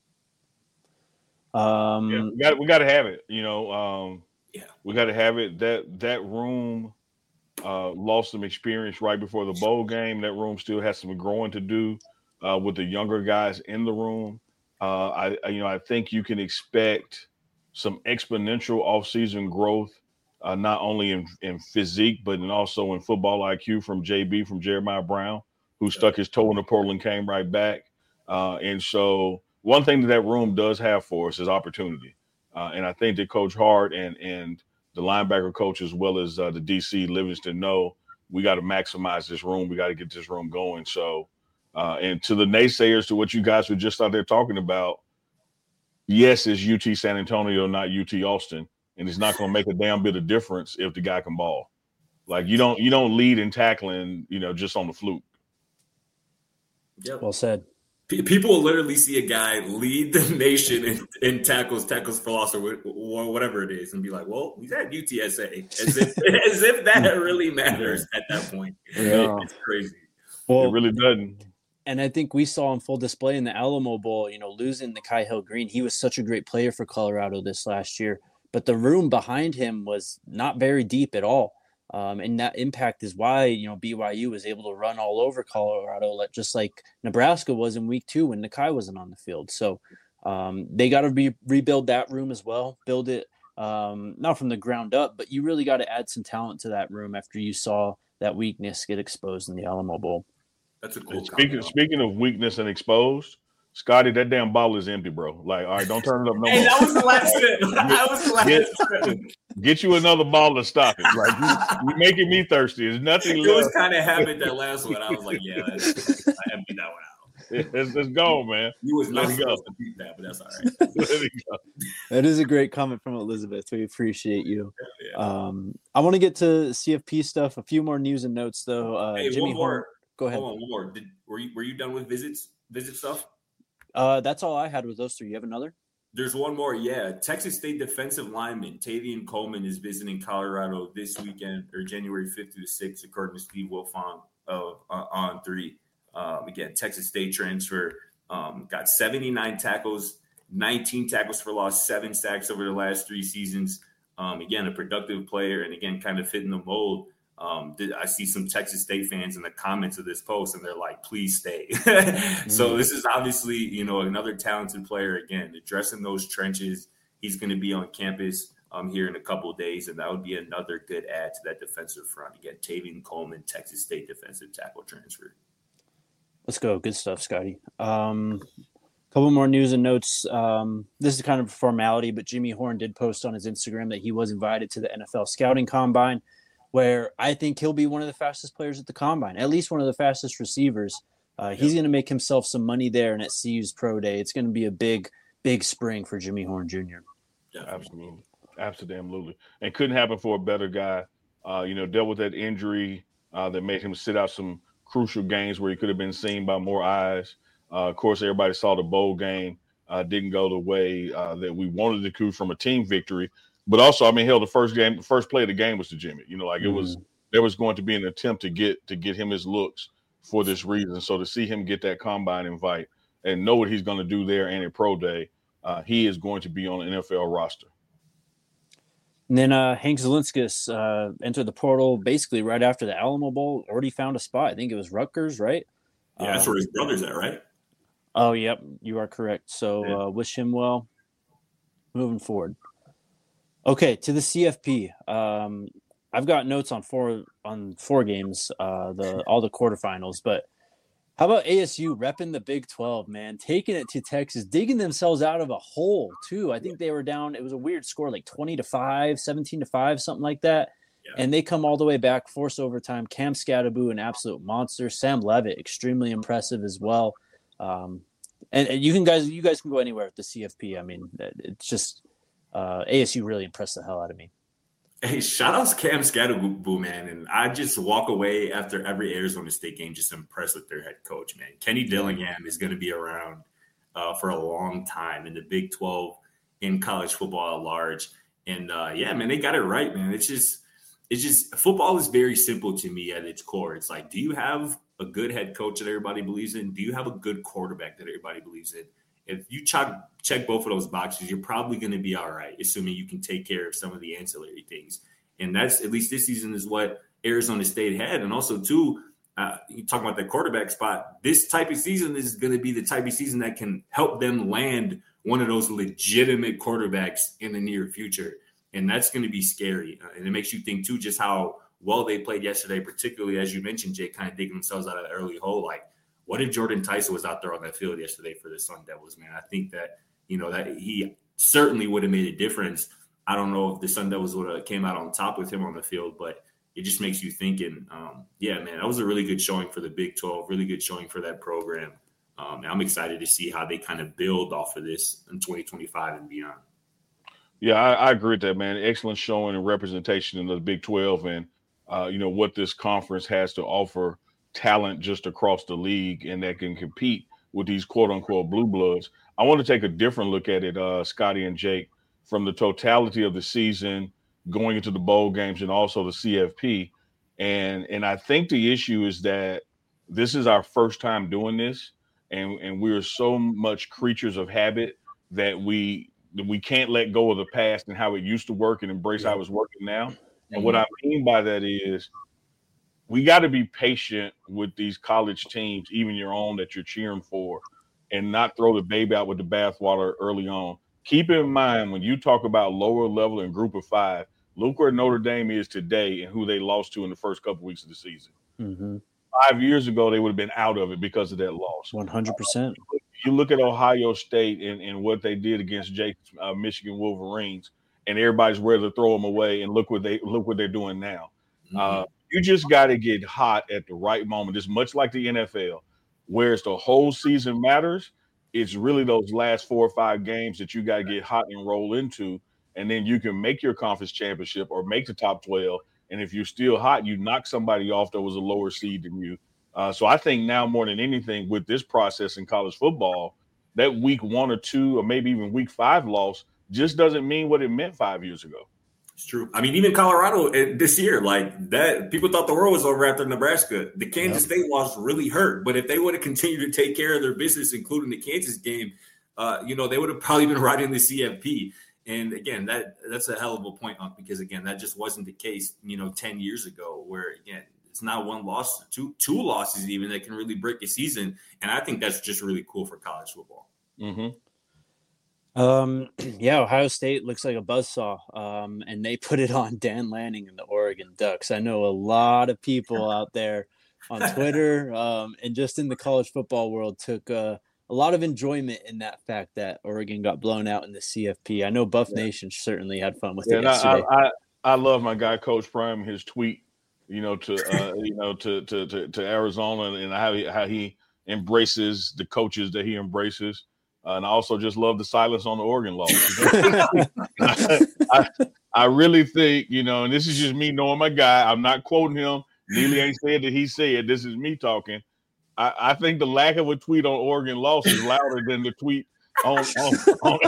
Um, yeah, we got we got to have it, you know. Um, Yeah, we got to have it. That that room uh, lost some experience right before the bowl game. That room still has some growing to do uh, with the younger guys in the room. Uh, I, I, you know, I think you can expect some exponential offseason growth, uh, not only in, in physique but in also in football I Q from J B, from Jeremiah Brown, who stuck his toe in the portal and came right back. Uh, and so, one thing that that room does have for us is opportunity. Uh, and I think that Coach Hart and and the linebacker coach, as well as uh, the D C Livingston, know we got to maximize this room. We got to get this room going. So, uh, and to the naysayers, to what you guys were just out there talking about, yes, it's U T San Antonio, not U T Austin, and it's not going to make a damn bit of difference if the guy can ball. Like, you don't you don't lead in tackling, you know, just on the fluke. Yep. Well said. People will literally see a guy lead the nation in, in tackles, tackles for loss, or whatever it is, and be like, "Well, he's at U T S A," as if as if that really matters at that point. Yeah. It's crazy. Well, it really doesn't. And I think we saw on full display in the Alamo Bowl, you know, losing the Kai Hill Green. He was such a great player for Colorado this last year, but the room behind him was not very deep at all. Um, and that impact is why, you know, B Y U was able to run all over Colorado, just like Nebraska was in week two when Nakai wasn't on the field. So um, they got to be rebuild that room as well, build it um, not from the ground up, but you really got to add some talent to that room after you saw that weakness get exposed in the Alamo Bowl. That's a cool. Speaking speaking of weakness and exposed, Scotty, that damn ball is empty, bro. Like, all right, don't turn it up no hey, more. That was the last sip. That was the last get, sip. Get you another ball to stop it. Like, you, you're making me thirsty. There's nothing it left. It was kind of habit that last one. I was like, yeah, let's, I emptied that one out. Let's, let's go, man. You was not Let supposed to beat that, but that's all right. Let it go. That is a great comment from Elizabeth. We appreciate you. Yeah, yeah. Um, I want to get to C F P stuff. A few more news and notes, though. Uh, hey, Jimmy one more. Horn, go ahead. Hold on, one more. Did, were you were you done with visits? Visit stuff? Uh, that's all I had with those three. You have another? There's one more. Yeah. Texas State defensive lineman Tavian Coleman is visiting Colorado this weekend, or January fifth through the sixth, according to Steve Wilfong of uh, On three. Um, again, Texas State transfer, um, got seventy-nine tackles, nineteen tackles for loss, seven sacks over the last three seasons. Um, again, a productive player, and again, kind of fitting the mold. Um, did, I see some Texas State fans in the comments of this post, and they're like, please stay. mm-hmm. So this is obviously, you know, another talented player, again, addressing those trenches. He's going to be on campus um, here in a couple of days, and that would be another good add to that defensive front. Again, Tavian Coleman, Texas State defensive tackle transfer. Let's go. Good stuff, Scotty. Um, a couple more news and notes. Um, this is kind of a formality, but Jimmy Horn did post on his Instagram that he was invited to the N F L Scouting Combine, where I think he'll be one of the fastest players at the Combine, at least one of the fastest receivers. Uh, he's going to make himself some money there and at C U's Pro Day. It's going to be a big, big spring for Jimmy Horn Junior Yeah, absolutely. Absolutely. And couldn't happen for a better guy. Uh, you know, dealt with that injury uh, that made him sit out some crucial games where he could have been seen by more eyes. Uh, of course, everybody saw the bowl game. Uh, didn't go the way uh, that we wanted it to from a team victory. But also, I mean, hell, the first game, the first play of the game was to Jimmy. You know, like it was, there was going to be an attempt to get to get him his looks for this reason. So to see him get that combine invite and know what he's going to do there and at Pro Day, uh, he is going to be on an N F L roster. And then uh, Hank Zelinskas uh, entered the portal basically right after the Alamo Bowl. Already found a spot. I think it was Rutgers, right? Yeah, that's Um, where his brother's at, right? Oh, yep, you are correct. So Yeah. uh, wish him well moving forward. Okay, to the C F P. Um, I've got notes on four on four games, uh, the all the quarterfinals. But how about A S U repping the Big twelve, man, taking it to Texas, digging themselves out of a hole too. I think they were down. It was a weird score, like twenty to five, seventeen to five, something like that. Yeah. And they come all the way back, force overtime. Cam Scattaboo, an absolute monster. Sam Levitt, extremely impressive as well. Um, and, and you can guys, you guys can go anywhere with the C F P. I mean, it's just uh, A S U really impressed the hell out of me. Hey, shout out to Cam Scattaboo, man. And I just walk away after every Arizona State game just impressed with their head coach, man. Kenny Dillingham is going to be around uh, for a long time in the Big twelve, in college football at large. And uh, yeah, man, they got it right, man. It's just, it's just football is very simple to me at its core. It's like, do you have a good head coach that everybody believes in? Do you have a good quarterback that everybody believes in? If you check, check both of those boxes, you're probably going to be all right, assuming you can take care of some of the ancillary things. And that's, at least this season, is what Arizona State had. And also, too, uh, you talk about that quarterback spot, this type of season is going to be the type of season that can help them land one of those legitimate quarterbacks in the near future. And that's going to be scary. Uh, and it makes you think, too, just how well they played yesterday, particularly, as you mentioned, Jay, kind of digging themselves out of the early hole. Like, what if Jordan Tyson was out there on that field yesterday for the Sun Devils, man? I think that, you know, that he certainly would have made a difference. I don't know if the Sun Devils would have came out on top with him on the field, but it just makes you thinking, um, yeah, man, that was a really good showing for the Big twelve, really good showing for that program. Um, and I'm excited to see how they kind of build off of this in twenty twenty-five and beyond. Yeah, I, I agree with that, man. Excellent showing and representation in the Big twelve, and uh, you know what this conference has to offer talent just across the league, and that can compete with these quote unquote blue bloods. I want to take a different look at it, uh, Scotty and Jake, from the totality of the season, going into the bowl games, and also the C F P. And and I think the issue is that this is our first time doing this, and and we're so much creatures of habit that we that we can't let go of the past and how it used to work and embrace Yeah. how it's working now. Mm-hmm. And what I mean by that is we got to be patient with these college teams, even your own that you're cheering for, and not throw the baby out with the bathwater early on. Keep in mind, when you talk about lower level and group of five, look where Notre Dame is today and who they lost to in the first couple weeks of the season. Mm-hmm. Five years ago, they would have been out of it because of that loss. one hundred percent. You look at Ohio State and, and what they did against Jake's uh, Michigan Wolverines, and everybody's ready to throw them away. And look what they look what they're doing now. Mm-hmm. Uh, you just got to get hot at the right moment. It's much like the N F L, whereas the whole season matters. It's really those last four or five games that you got to get hot and roll into, and then you can make your conference championship or make the top twelve. And if you're still hot, you knock somebody off that was a lower seed than you. Uh, so I think now more than anything with this process in college football, that week one or two or maybe even week five loss just doesn't mean what it meant five years ago. It's true. I mean, even Colorado this year, like that, people thought the world was over after Nebraska. The Kansas yep. State loss really hurt. But if they would have continued to take care of their business, including the Kansas game, uh, you know, they would have probably been right in the C F P. And again, that that's a hell of a point, because again, that just wasn't the case, you know, ten years ago, where again, it's not one loss, two two losses even that can really break a season. And I think that's just really cool for college football. Mm-hmm. Um, yeah, Ohio State looks like a buzzsaw, um, and they put it on Dan Lanning and the Oregon Ducks. I know a lot of people out there on Twitter um, and just in the college football world took uh, a lot of enjoyment in that fact that Oregon got blown out in the C F P. I know Buff yeah. Nation certainly had fun with yeah, it yesterday. I, I, I love my guy, Coach Prime, his tweet, you know, to uh, you know to, to to to Arizona, and how he, how he embraces the coaches that he embraces. Uh, and I also just love the silence on the Oregon loss. I, I, I really think, you know, and this is just me knowing my guy. I'm not quoting him. Neely ain't said that he said. This is me talking. I, I think the lack of a tweet on Oregon loss is louder than the tweet on on, on,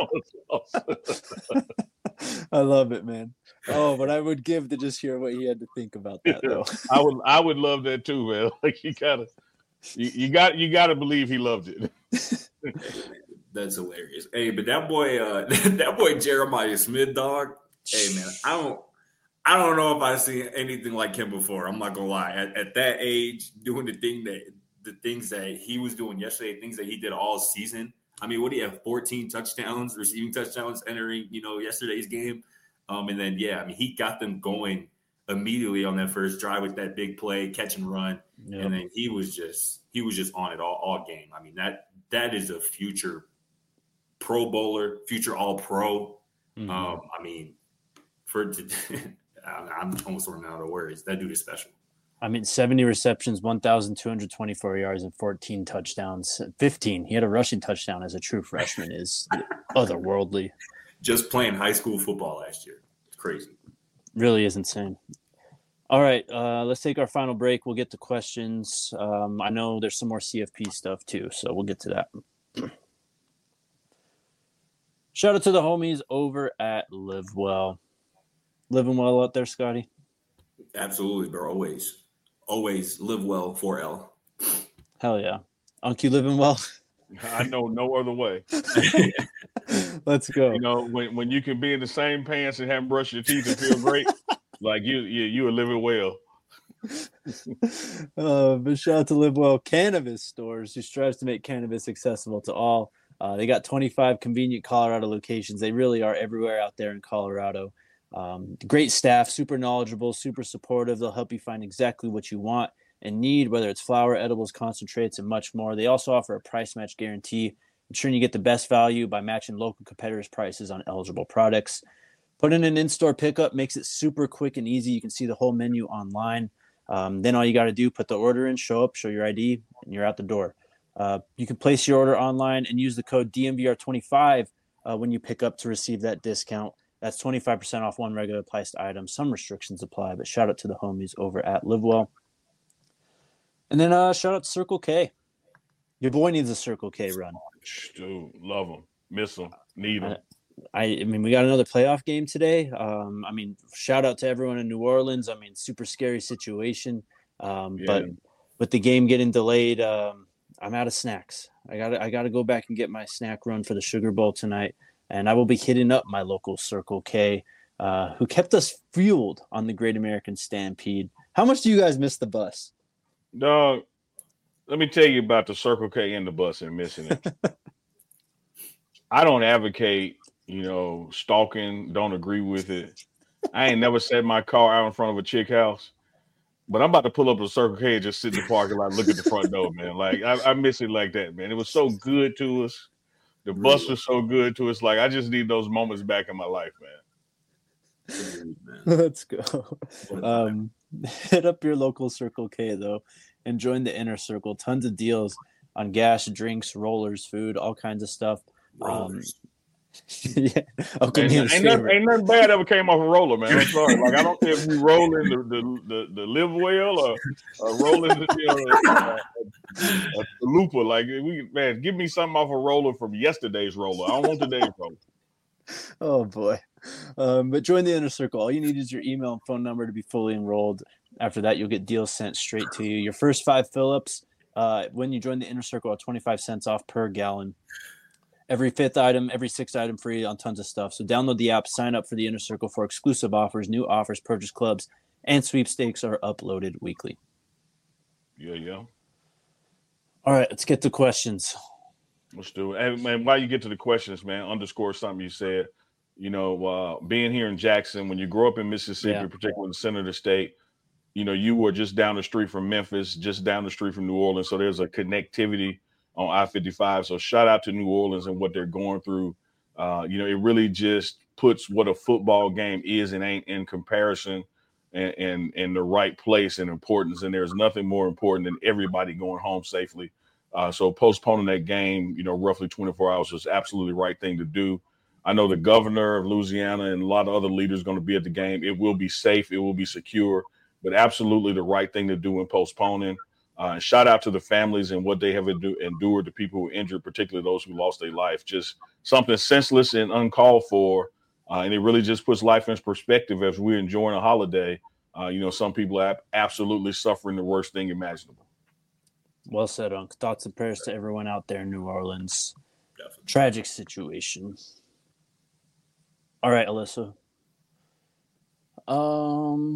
on I love it, man. Oh, but I would give to just hear what he had to think about that, though. I would I would love that too, man. Like you gotta you, you got you gotta believe he loved it. That's hilarious. Hey, but that boy, uh, that boy Jeremiah Smith, dog. Hey, man, I don't, I don't know if I've seen anything like him before. I'm not gonna lie. At, at that age, doing the thing that the things that he was doing yesterday, things that he did all season. I mean, what do you have? fourteen touchdowns, receiving touchdowns entering, you know, yesterday's game. Um, and then, yeah, I mean, he got them going immediately on that first drive with that big play, catch and run. Yep. And then he was just he was just on it all, all game. I mean, that that is a future Pro Bowler, future All Pro. Mm-hmm. Um, I mean, for I'm almost running out of words. That dude is special. I mean, seventy receptions, one thousand two hundred twenty-four yards, and fourteen touchdowns. fifteen. He had a rushing touchdown as a true freshman. Is otherworldly. Just playing high school football last year. It's crazy. Really is insane. All right, uh, let's take our final break. We'll get to questions. Um, I know there's some more C F P stuff too, so we'll get to that. Shout out to the homies over at Live Well. Living well out there, Scotty? Absolutely, bro. Always. Always live well for L. Hell yeah. Unc, you living well? I know no other way. Let's go. You know, when, when you can be in the same pants and haven't brushed your teeth and feel great, like you you you are living well. uh, but shout out to Live Well Cannabis Stores, who strives to make cannabis accessible to all. Uh, they got twenty-five convenient Colorado locations. They really are everywhere out there in Colorado. Um, great staff, super knowledgeable, super supportive. They'll help you find exactly what you want and need, whether it's flower, edibles, concentrates, and much more. They also offer a price match guarantee, ensuring you get the best value by matching local competitors' prices on eligible products. Put in an in-store pickup makes it super quick and easy. You can see the whole menu online. Um, then all you got to do, put the order in, show up, show your I D, and you're out the door. Uh, you can place your order online and use the code D M V R twenty-five uh, when you pick up to receive that discount. That's twenty-five percent off one regular priced item. Some restrictions apply, but shout out to the homies over at LiveWell. And then uh, shout out to Circle K. Your boy needs a Circle K run. Dude, love them. Miss them. Need them. I, I mean, we got another playoff game today. Um, I mean, shout out to everyone in New Orleans. I mean, super scary situation. Um, yeah. But with the game getting delayed, um, I'm out of snacks. I got I got to go back and get my snack run for the Sugar Bowl tonight. And I will be hitting up my local Circle K, uh, who kept us fueled on the Great American Stampede. How much do you guys miss the bus? Dog, let me tell you about the Circle K and the bus and missing it. I don't advocate, you know, stalking, don't agree with it. I ain't never set my car out in front of a chick house. But I'm about to pull up a Circle K and just sit in the parking lot, look at the front door, man. Like, I, I miss it like that, man. It was so good to us. The bus really? was so good to us. Like, I just need those moments back in my life, man. Let's go. Um, hit up your local Circle K, though, and join the inner circle. Tons of deals on gas, drinks, rollers, food, all kinds of stuff. Um, yeah, Uncle ain't, ain't, nothing, ain't nothing bad ever came off a roller, man. I'm sorry. Like, I don't care if you rolling the the, the, the Live Well or, or rolling the, you know, a, a, a looper. Like, we man, give me something off a roller from yesterday's roller. I don't want today's roller. Oh boy. Um, but join the inner circle. All you need is your email and phone number to be fully enrolled. After that, you'll get deals sent straight to you. Your first five fill-ups uh, when you join the inner circle are twenty-five cents off per gallon. Every fifth item, every sixth item free on tons of stuff. So download the app, sign up for the Inner Circle for exclusive offers, new offers, purchase clubs, and sweepstakes are uploaded weekly. Yeah, yeah. All right, let's get to questions. Let's do it. And man, while you get to the questions, man, underscore something you said. You know, uh, being here in Jackson, when you grow up in Mississippi, yeah. particularly in the center of the state, you know, you were just down the street from Memphis, just down the street from New Orleans. So there's a connectivity on I fifty-five. So shout out to New Orleans and what they're going through. Uh, you know, it really just puts what a football game is and ain't in comparison and, and, and the right place and importance. And there's nothing more important than everybody going home safely. Uh, so postponing that game, you know, roughly twenty-four hours was absolutely the right thing to do. I know the governor of Louisiana and a lot of other leaders going to be at the game. It will be safe. It will be secure, but absolutely the right thing to do in postponing. Uh, and shout out to the families and what they have endu- endured, the people who were injured, particularly those who lost their life. Just something senseless and uncalled for. Uh, and it really just puts life in perspective as we're enjoying a holiday. Uh, you know, some people are absolutely suffering the worst thing imaginable. Well said, Unc. Thoughts and prayers to everyone out there in New Orleans. Definitely. Tragic situation. All right, Alyssa. Um,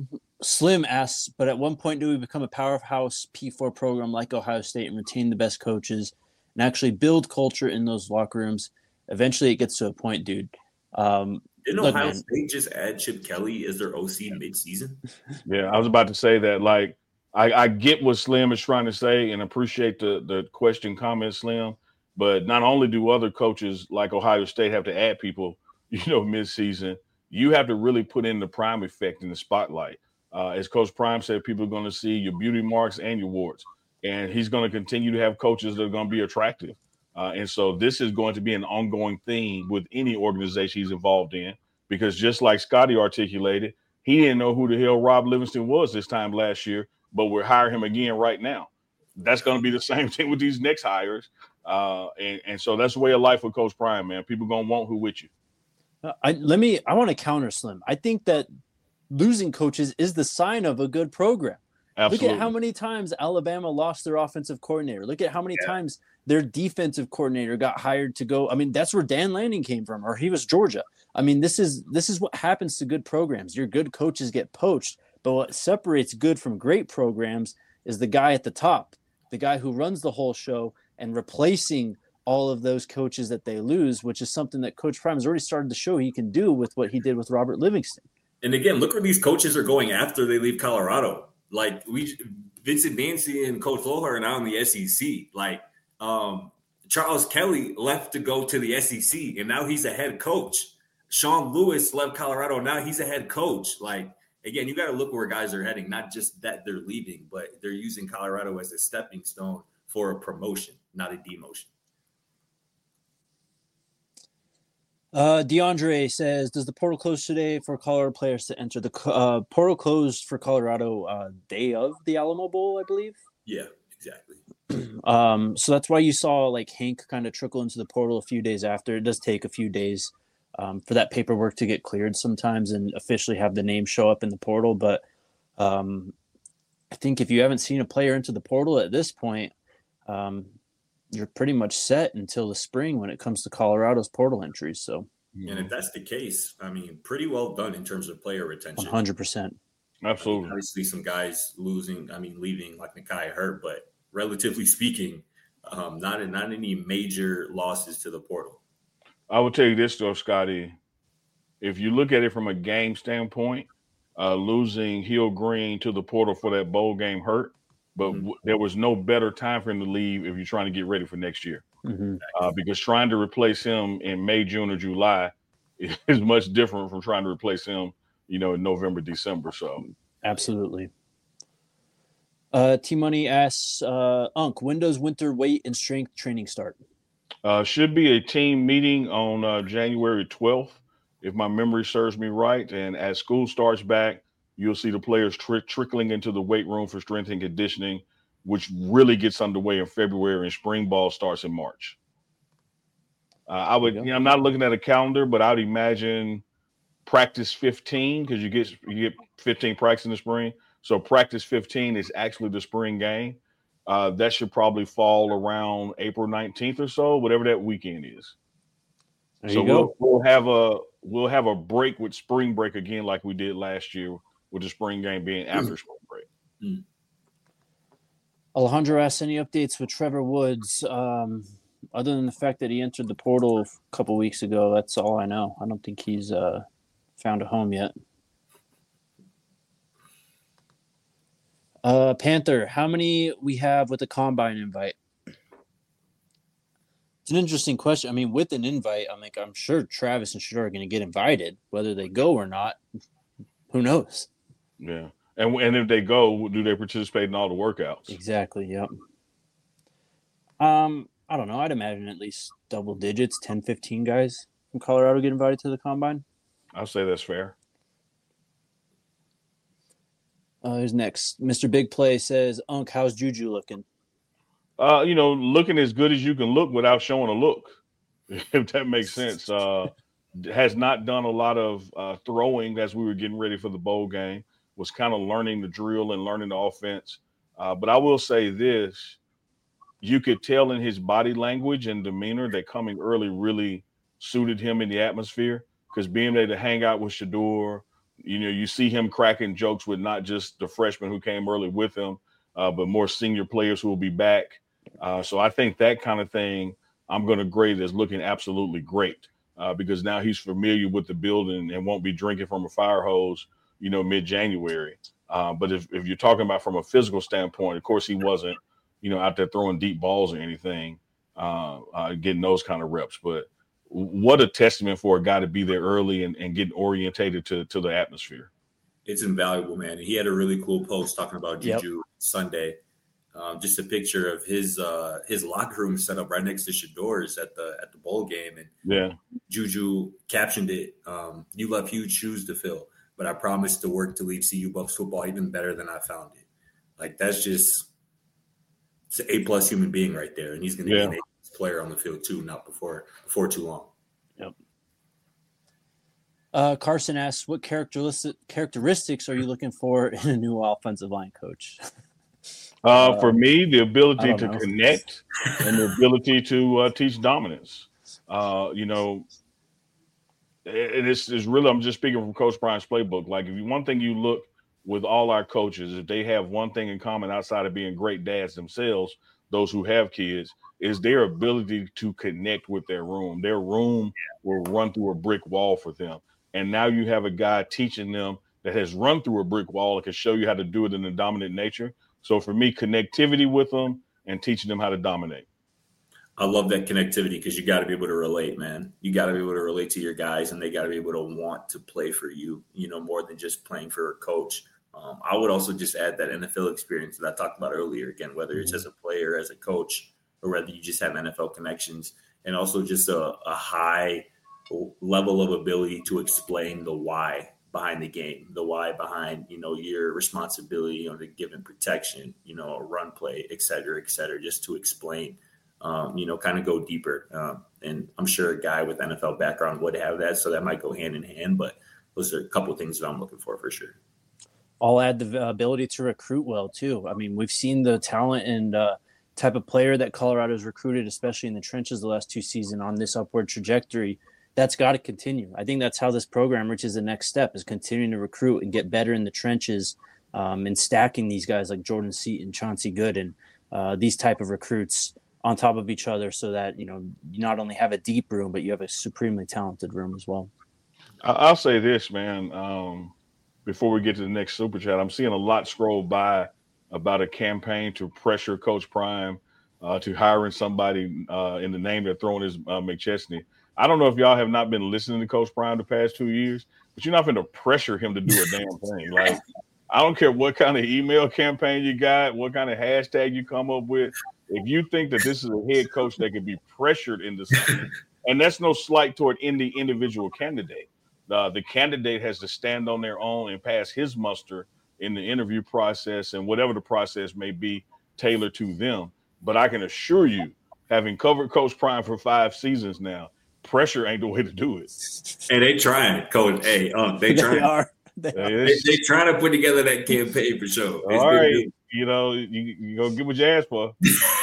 Slim asks, but at one point do we become a powerhouse P four program like Ohio State and retain the best coaches and actually build culture in those locker rooms? Eventually it gets to a point, dude. Um, Didn't look, Ohio man, State just add Chip Kelly as their O C mid-season? Yeah, I was about to say that. Like, I, I get what Slim is trying to say and appreciate the the question, comment, Slim. But not only do other coaches like Ohio State have to add people, you know, mid-season, you have to really put in the prime effect in the spotlight. Uh, as Coach Prime said, people are going to see your beauty marks and your warts, and he's going to continue to have coaches that are going to be attractive. Uh, and so this is going to be an ongoing theme with any organization he's involved in, because just like Scotty articulated, he didn't know who the hell Rob Livingston was this time last year, but we're hiring him again right now. That's going to be the same thing with these next hires. Uh, and, and so that's the way of life with Coach Prime, man. People going to want who with you. I let me I want to counter Slim. I think that losing coaches is the sign of a good program. Absolutely. Look at how many times Alabama lost their offensive coordinator. Look at how many Yeah. times their defensive coordinator got hired to go. I mean, that's where Dan Lanning came from, or he was Georgia. I mean, this is this is what happens to good programs. Your good coaches get poached, but what separates good from great programs is the guy at the top, the guy who runs the whole show, and replacing all of those coaches that they lose, which is something that Coach Prime has already started to show he can do with what he did with Robert Livingston. And again, look where these coaches are going after they leave Colorado. Like we, Vincent Dancy and Coach Lohar are now in the S E C. Like um, Charles Kelly left to go to the S E C, and now he's a head coach. Sean Lewis left Colorado, now he's a head coach. Like again, you got to look where guys are heading, not just that they're leaving, but they're using Colorado as a stepping stone for a promotion, not a demotion. Uh, DeAndre says, does the portal close today for Colorado players to enter? The uh, portal closed for Colorado uh, day of the Alamo Bowl, I believe. Yeah, exactly. Um, so that's why you saw like Hank kind of trickle into the portal a few days after. It does take a few days um, for that paperwork to get cleared sometimes and officially have the name show up in the portal. But um, I think if you haven't seen a player into the portal at this point, um, you're pretty much set until the spring when it comes to Colorado's portal entries. So, and if that's the case, I mean, pretty well done in terms of player retention. one hundred percent. Absolutely. I mean, obviously, some guys losing, I mean, leaving like Nakai hurt, but relatively speaking, um, not not any major losses to the portal. I will tell you this, though, Scotty. If you look at it from a game standpoint, uh, losing Hill Green to the portal for that bowl game hurt. But mm-hmm. w- there was no better time for him to leave if you're trying to get ready for next year. Mm-hmm. Uh, because trying to replace him in May, June, or July is much different from trying to replace him, you know, in November, December. So absolutely. Uh, T Money asks, uh, Unc, when does winter weight and strength training start? Uh, should be a team meeting on uh, January twelfth, if my memory serves me right. And as school starts back, you'll see the players tri- trickling into the weight room for strength and conditioning, which really gets underway in February, and spring ball starts in March. Uh, I would, you know, I'm not looking at a calendar, but I would imagine practice fifteen, because you get you get fifteen practice in the spring. So practice fifteen is actually the spring game. Uh, that should probably fall around April nineteenth or so, whatever that weekend is. There so you go. We'll, we'll have a we'll have a break with spring break again, like we did last year, with the spring game being after spring break. Mm. Alejandro asks, any updates with Trevor Woods? Um, other than the fact that he entered the portal a couple weeks ago, that's all I know. I don't think he's uh, found a home yet. Uh, Panther, how many we have with the combine invite? It's an interesting question. I mean, with an invite, I'm like, I'm sure Travis and Shedeur are going to get invited, whether they go or not. Who knows? Yeah. And and if they go, do they participate in all the workouts? Exactly. Yep. Um, I don't know. I'd imagine at least double digits, ten, fifteen guys from Colorado get invited to the combine. I'll say that's fair. Uh, who's next? Mister Big Play says, Unc, how's Juju looking? Uh, you know, looking as good as you can look without showing a look, if that makes sense. Uh, has not done a lot of uh, throwing as we were getting ready for the bowl game. Was kind of learning the drill and learning the offense. Uh, but I will say this, you could tell in his body language and demeanor that coming early really suited him in the atmosphere, because being able to hang out with Shedeur, you know, you see him cracking jokes with not just the freshmen who came early with him, uh, but more senior players who will be back. Uh, so I think that kind of thing I'm going to grade as looking absolutely great uh, because now he's familiar with the building and won't be drinking from a fire hose, you know, mid-January. Uh, but if, if you're talking about from a physical standpoint, of course, he wasn't, you know, out there throwing deep balls or anything, uh, uh, getting those kind of reps. But what a testament for a guy to be there early and, and getting orientated to, to the atmosphere. It's invaluable, man. And he had a really cool post talking about Juju yep. Sunday. Um, just a picture of his uh, his locker room set up right next to Shador's at the at the bowl game, and yeah, Juju captioned it. Um, you left huge shoes to fill, but I promise to work to leave C U Buffs football even better than I found it. Like that's just it's an A plus human being right there, and he's going to yeah. be an A plus player on the field too, not before before too long. Yep. Uh, Carson asks, what characteristic characteristics are you looking for in a new offensive line coach? Uh, for me, the ability to know. connect and the ability to uh, teach dominance. Uh, you know, and it's, it's really, I'm just speaking from Coach Prime's playbook. Like, if you, one thing you look with all our coaches, if they have one thing in common outside of being great dads themselves, those who have kids, is their ability to connect with their room. Their room will run through a brick wall for them. And now you have a guy teaching them that has run through a brick wall and can show you how to do it in a dominant nature. So for me, connectivity with them and teaching them how to dominate. I love that connectivity because you got to be able to relate, man. You got to be able to relate to your guys, and they got to be able to want to play for you, you know, more than just playing for a coach. Um, I would also just add that N F L experience that I talked about earlier, again, whether it's as a player, as a coach, or whether you just have N F L connections, and also just a, a high level of ability to explain the why behind the game, the why behind, you know, your responsibility on the given protection, you know, a run play, et cetera, et cetera, just to explain, um, you know, kind of go deeper. Um, and I'm sure a guy with N F L background would have that, so that might go hand in hand, but those are a couple of things that I'm looking for, for sure. I'll add the ability to recruit well too. I mean, we've seen the talent and uh, type of player that Colorado's recruited, especially in the trenches the last two seasons on this upward trajectory. That's got to continue. I think that's how this program reaches the next step, is continuing to recruit and get better in the trenches um, and stacking these guys like Jordan Seaton, Chauncey Gooden, uh, these type of recruits on top of each other so that, you know, you not only have a deep room, but you have a supremely talented room as well. I'll say this, man, um, before we get to the next super chat, I'm seeing a lot scroll by about a campaign to pressure Coach Prime uh, to hiring somebody uh, in the name they're throwing is uh, McChesney. I don't know if y'all have not been listening to Coach Prime the past two years, but you're not going to pressure him to do a damn thing. Like, I don't care what kind of email campaign you got, what kind of hashtag you come up with. If you think that this is a head coach that can be pressured into something, and that's no slight toward any individual candidate. Uh, the candidate has to stand on their own and pass his muster in the interview process and whatever the process may be tailored to them. But I can assure you, having covered Coach Prime for five seasons now, pressure ain't the way to do it. Hey, they trying, Coach. Hey, um, they trying. They are. They, are. They, they trying to put together that campaign for sure. All right, good. You know, you you gonna get what you asked for.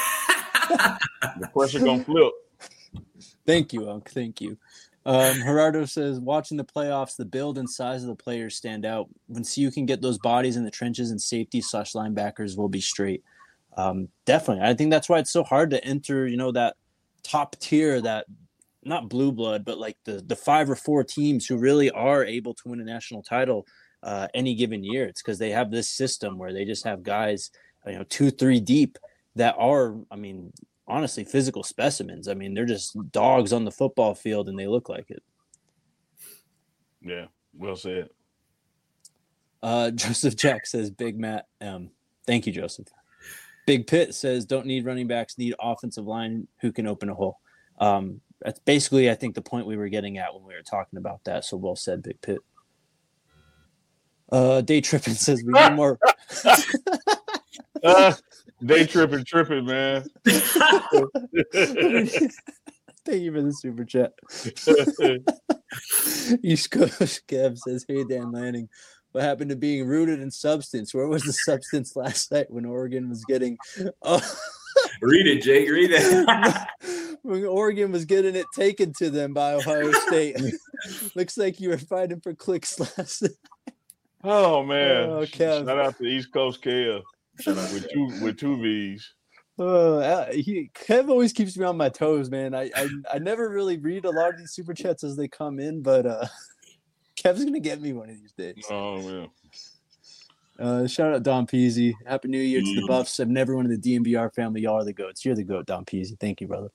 The pressure gonna flip. Thank you, Unc. Thank you. Um, Gerardo says, watching the playoffs, the build and size of the players stand out. When C U can get those bodies in the trenches and safety slash linebackers will be straight. Um, definitely. I think that's why it's so hard to enter, you know, that top tier, that not blue blood, but like the, the five or four teams who really are able to win a national title uh, any given year. It's because they have this system where they just have guys, you know, two, three deep that are, I mean, honestly, physical specimens. I mean, they're just dogs on the football field and they look like it. Yeah, well said. Uh, Joseph Jack says, Big Matt. Um, thank you, Joseph. Big Pitt says, don't need running backs, need offensive line who can open a hole. Um, That's basically, I think, the point we were getting at when we were talking about that. So well said, Big Pitt. Uh, Day Trippin says we need more. uh, day tripping, tripping, man. Thank you for the super chat. East Coast Kev says, hey, Dan Lanning. What happened to being rooted in substance? Where was the substance last night when Oregon was getting oh. – Read it, Jake. Read it. When Oregon was getting it taken to them by Ohio State. Looks like you were fighting for clicks last night. Oh man! Oh, Shout Kev. out to East Coast Kev with two with two V's. Uh, he Kev always keeps me on my toes, man. I, I I never really read a lot of these super chats as they come in, but uh, Kev's gonna get me one of these days. Oh man! Uh, shout out Don Peasy. Happy New Year to the Buffs and everyone in the D M V R family. Y'all are the goats. You're the goat, Don Peasy. Thank you, brother.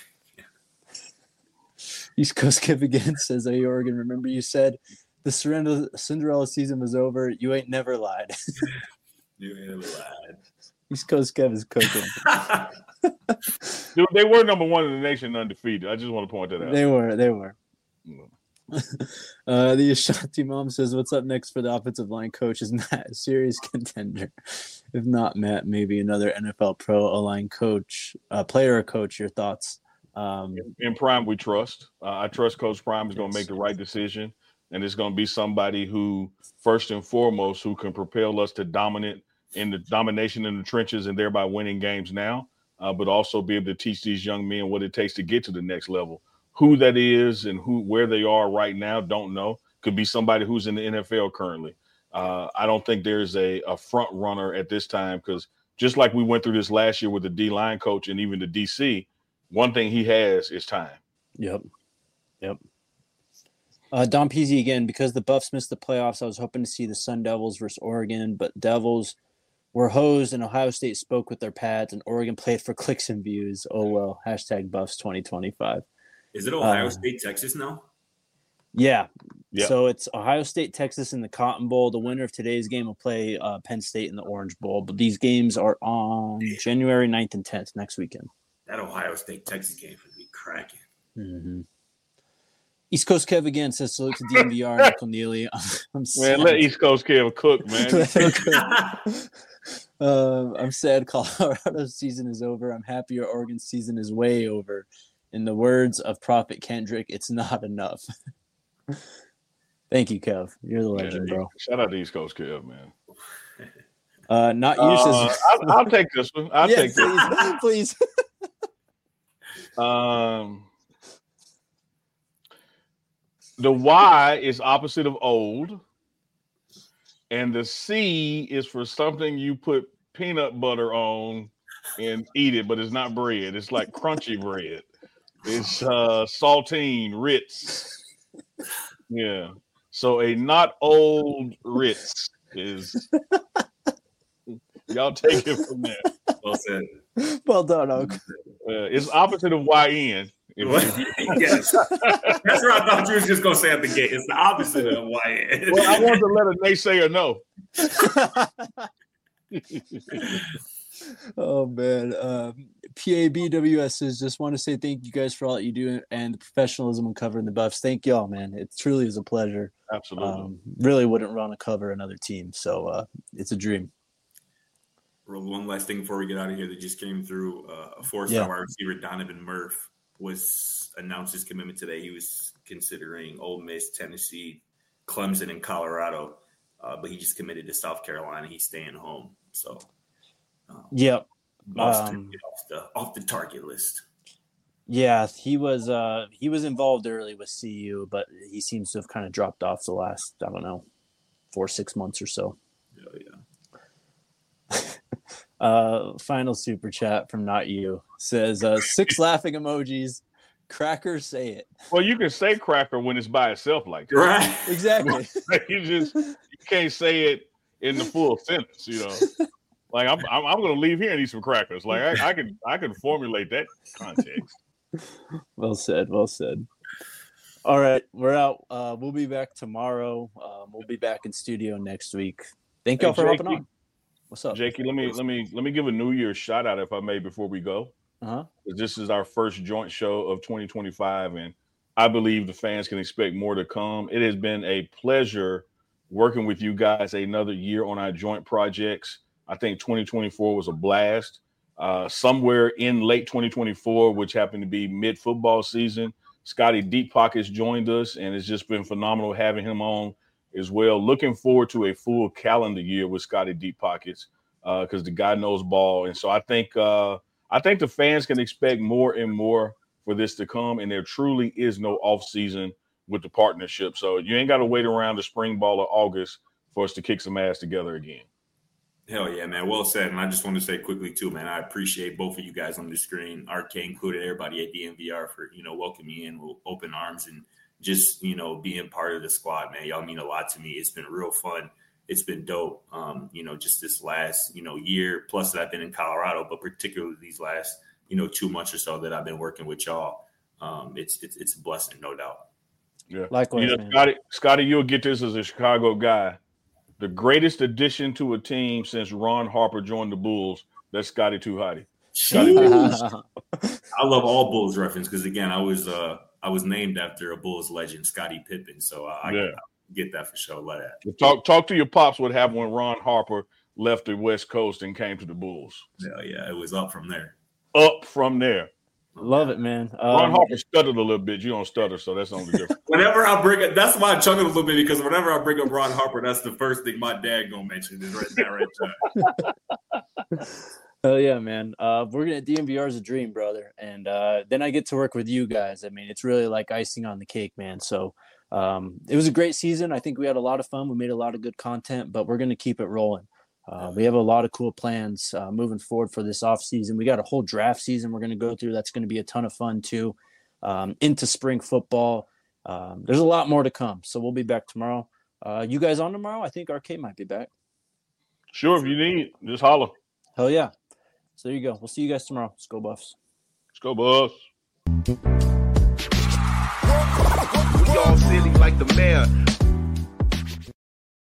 East Coast Kev again says, "Hey Oregon, remember you said the Cinderella Cinderella season was over. You ain't never lied." You ain't never lied. East Coast Kev is cooking. Dude, they were number one in the nation undefeated. I just want to point that out. They were. They were. uh, the Ashanti mom says, "What's up next for the offensive line coach? Is Matt a serious contender? If not Matt, maybe another N F L pro O-line coach, uh, player or coach. Your thoughts?" Um, in Prime, we trust. Uh, I trust Coach Prime is going to make the right decision, and it's going to be somebody who, first and foremost, who can propel us to dominant in the domination in the trenches and thereby winning games now, uh, but also be able to teach these young men what it takes to get to the next level. Who that is and who where they are right now, don't know. Could be somebody who's in the N F L currently. Uh, I don't think there's a, a front runner at this time because just like we went through this last year with the D-line coach and even the D C, one thing he has is time. Yep. Yep. Uh, Don Peasy again, because the Buffs missed the playoffs, I was hoping to see the Sun Devils versus Oregon, but Devils were hosed and Ohio State spoke with their pads and Oregon played for clicks and views. Oh, well, hashtag Buffs twenty twenty-five. Is it Ohio uh, State, Texas now? Yeah. Yep. So it's Ohio State, Texas in the Cotton Bowl. The winner of today's game will play uh, Penn State in the Orange Bowl. But these games are on January ninth and tenth next weekend. That Ohio State, Texas game would be cracking. Mm-hmm. East Coast Kev again says salute to D M V R and Nickel Neely. I'm, I'm Man, sad. let East Coast Kev cook, man. um, I'm sad Colorado's season is over. I'm happy your Oregon season is way over. In the words of Prophet Kendrick, it's not enough. Thank you, Kev. You're the legend, yeah, bro. Shout out to East Coast Kev, man. Uh, not you. Uh, says, I'll, I'll take this one. I'll yeah, take this one. please, please. Um, the Y is opposite of old, and the C is for something you put peanut butter on and eat it, but it's not bread. It's like crunchy bread. It's uh, saltine Ritz. Yeah. So a not old Ritz is. Y'all take it from there. Well said. Well done, Oak. Uh, it's opposite of Y N. Yes. That's what I thought you was just going to say at the gate. It's the opposite of Y N. Well, I wanted to let a naysayer know. Oh, man. Um, P A B W S says, just want to say thank you guys for all that you do and the professionalism in covering the Buffs. Thank y'all, man. It truly is a pleasure. Absolutely. Um, really wouldn't run to cover another team. So uh, it's a dream. One last thing before we get out of here that just came through. Uh, a four-star Yeah. wide receiver, Donovan Murph, was announced his commitment today. He was considering Ole Miss, Tennessee, Clemson, and Colorado, uh, but he just committed to South Carolina. He's staying home. So, um, Yep. Boston Um, get off the off the target list. Yeah, he was uh, he was involved early with C U, but he seems to have kind of dropped off the last, I don't know, four, six months or so. Oh, yeah. Uh, final super chat from Not You says uh, six laughing emojis. Cracker, say it. Well, you can say cracker when it's by itself like that. Right. Exactly. You just you can't say it in the full sentence, you know. Like I'm, I'm, I'm going to leave here and eat some crackers. Like I, I can, I can formulate that context. Well said. Well said. All right, we're out. Uh, we'll be back tomorrow. Um, we'll be back in studio next week. Thank y'all Hey, for hopping Jakey. on. What's up? Jakey, let me, let me, let me give a New Year's shout out if I may before we go. Uh-huh. This is our first joint show of twenty twenty-five, and I believe the fans can expect more to come. It has been a pleasure working with you guys another year on our joint projects. I think twenty twenty-four was a blast. Uh, somewhere in late twenty twenty-four, which happened to be mid-football season, Scotty Deep Pockets joined us, and it's just been phenomenal having him on as well. Looking forward to a full calendar year with Scotty Deep Pockets because uh, the guy knows ball. And so I think uh, I think the fans can expect more and more for this to come, and there truly is no off season with the partnership. So you ain't got to wait around the spring ball of August for us to kick some ass together again. Hell yeah, man. Well said. And I just want to say quickly too, man, I appreciate both of you guys on the screen, R K included, everybody at D N V R for, you know, welcoming me in with open arms and just, you know, being part of the squad, man. Y'all mean a lot to me. It's been real fun. It's been dope. Um, you know, just this last, you know, year plus that I've been in Colorado, but particularly these last, you know, two months or so that I've been working with y'all. Um, it's, it's, it's a blessing, no doubt. Yeah. Likewise, you know, man. Scotty, Scotty, you'll get this as a Chicago guy. The greatest addition to a team since Ron Harper joined the Bulls, that's Scotty Too Hotty. I love all Bulls reference because again, I was uh, I was named after a Bulls legend, Scottie Pippen. So I, yeah. I get that for sure. Love that. Talk talk to your pops what happened when Ron Harper left the West Coast and came to the Bulls. Yeah, yeah, it was up from there. Up from there. Love it, man. Um, Ron Harper stuttered a little bit. You don't stutter, so that's the only difference. Whenever I bring it, that's why I chuckled a little bit because whenever I bring up Ron Harper, that's the first thing my dad gonna mention is right there, right there. Oh yeah, man. Uh, working at D N V R is a dream, brother. And uh, then I get to work with you guys. I mean, it's really like icing on the cake, man. So um, it was a great season. I think we had a lot of fun. We made a lot of good content, but we're going to keep it rolling. Uh, we have a lot of cool plans uh, moving forward for this off season. We got a whole draft season we're going to go through. That's going to be a ton of fun too. Um, into spring football. Um, there's a lot more to come. So we'll be back tomorrow. Uh, you guys on tomorrow? I think R K might be back. Sure, if you need, just holler. Hell yeah. So there you go. We'll see you guys tomorrow. Let's go Buffs. Let's go Buffs. We all silly like the mayor.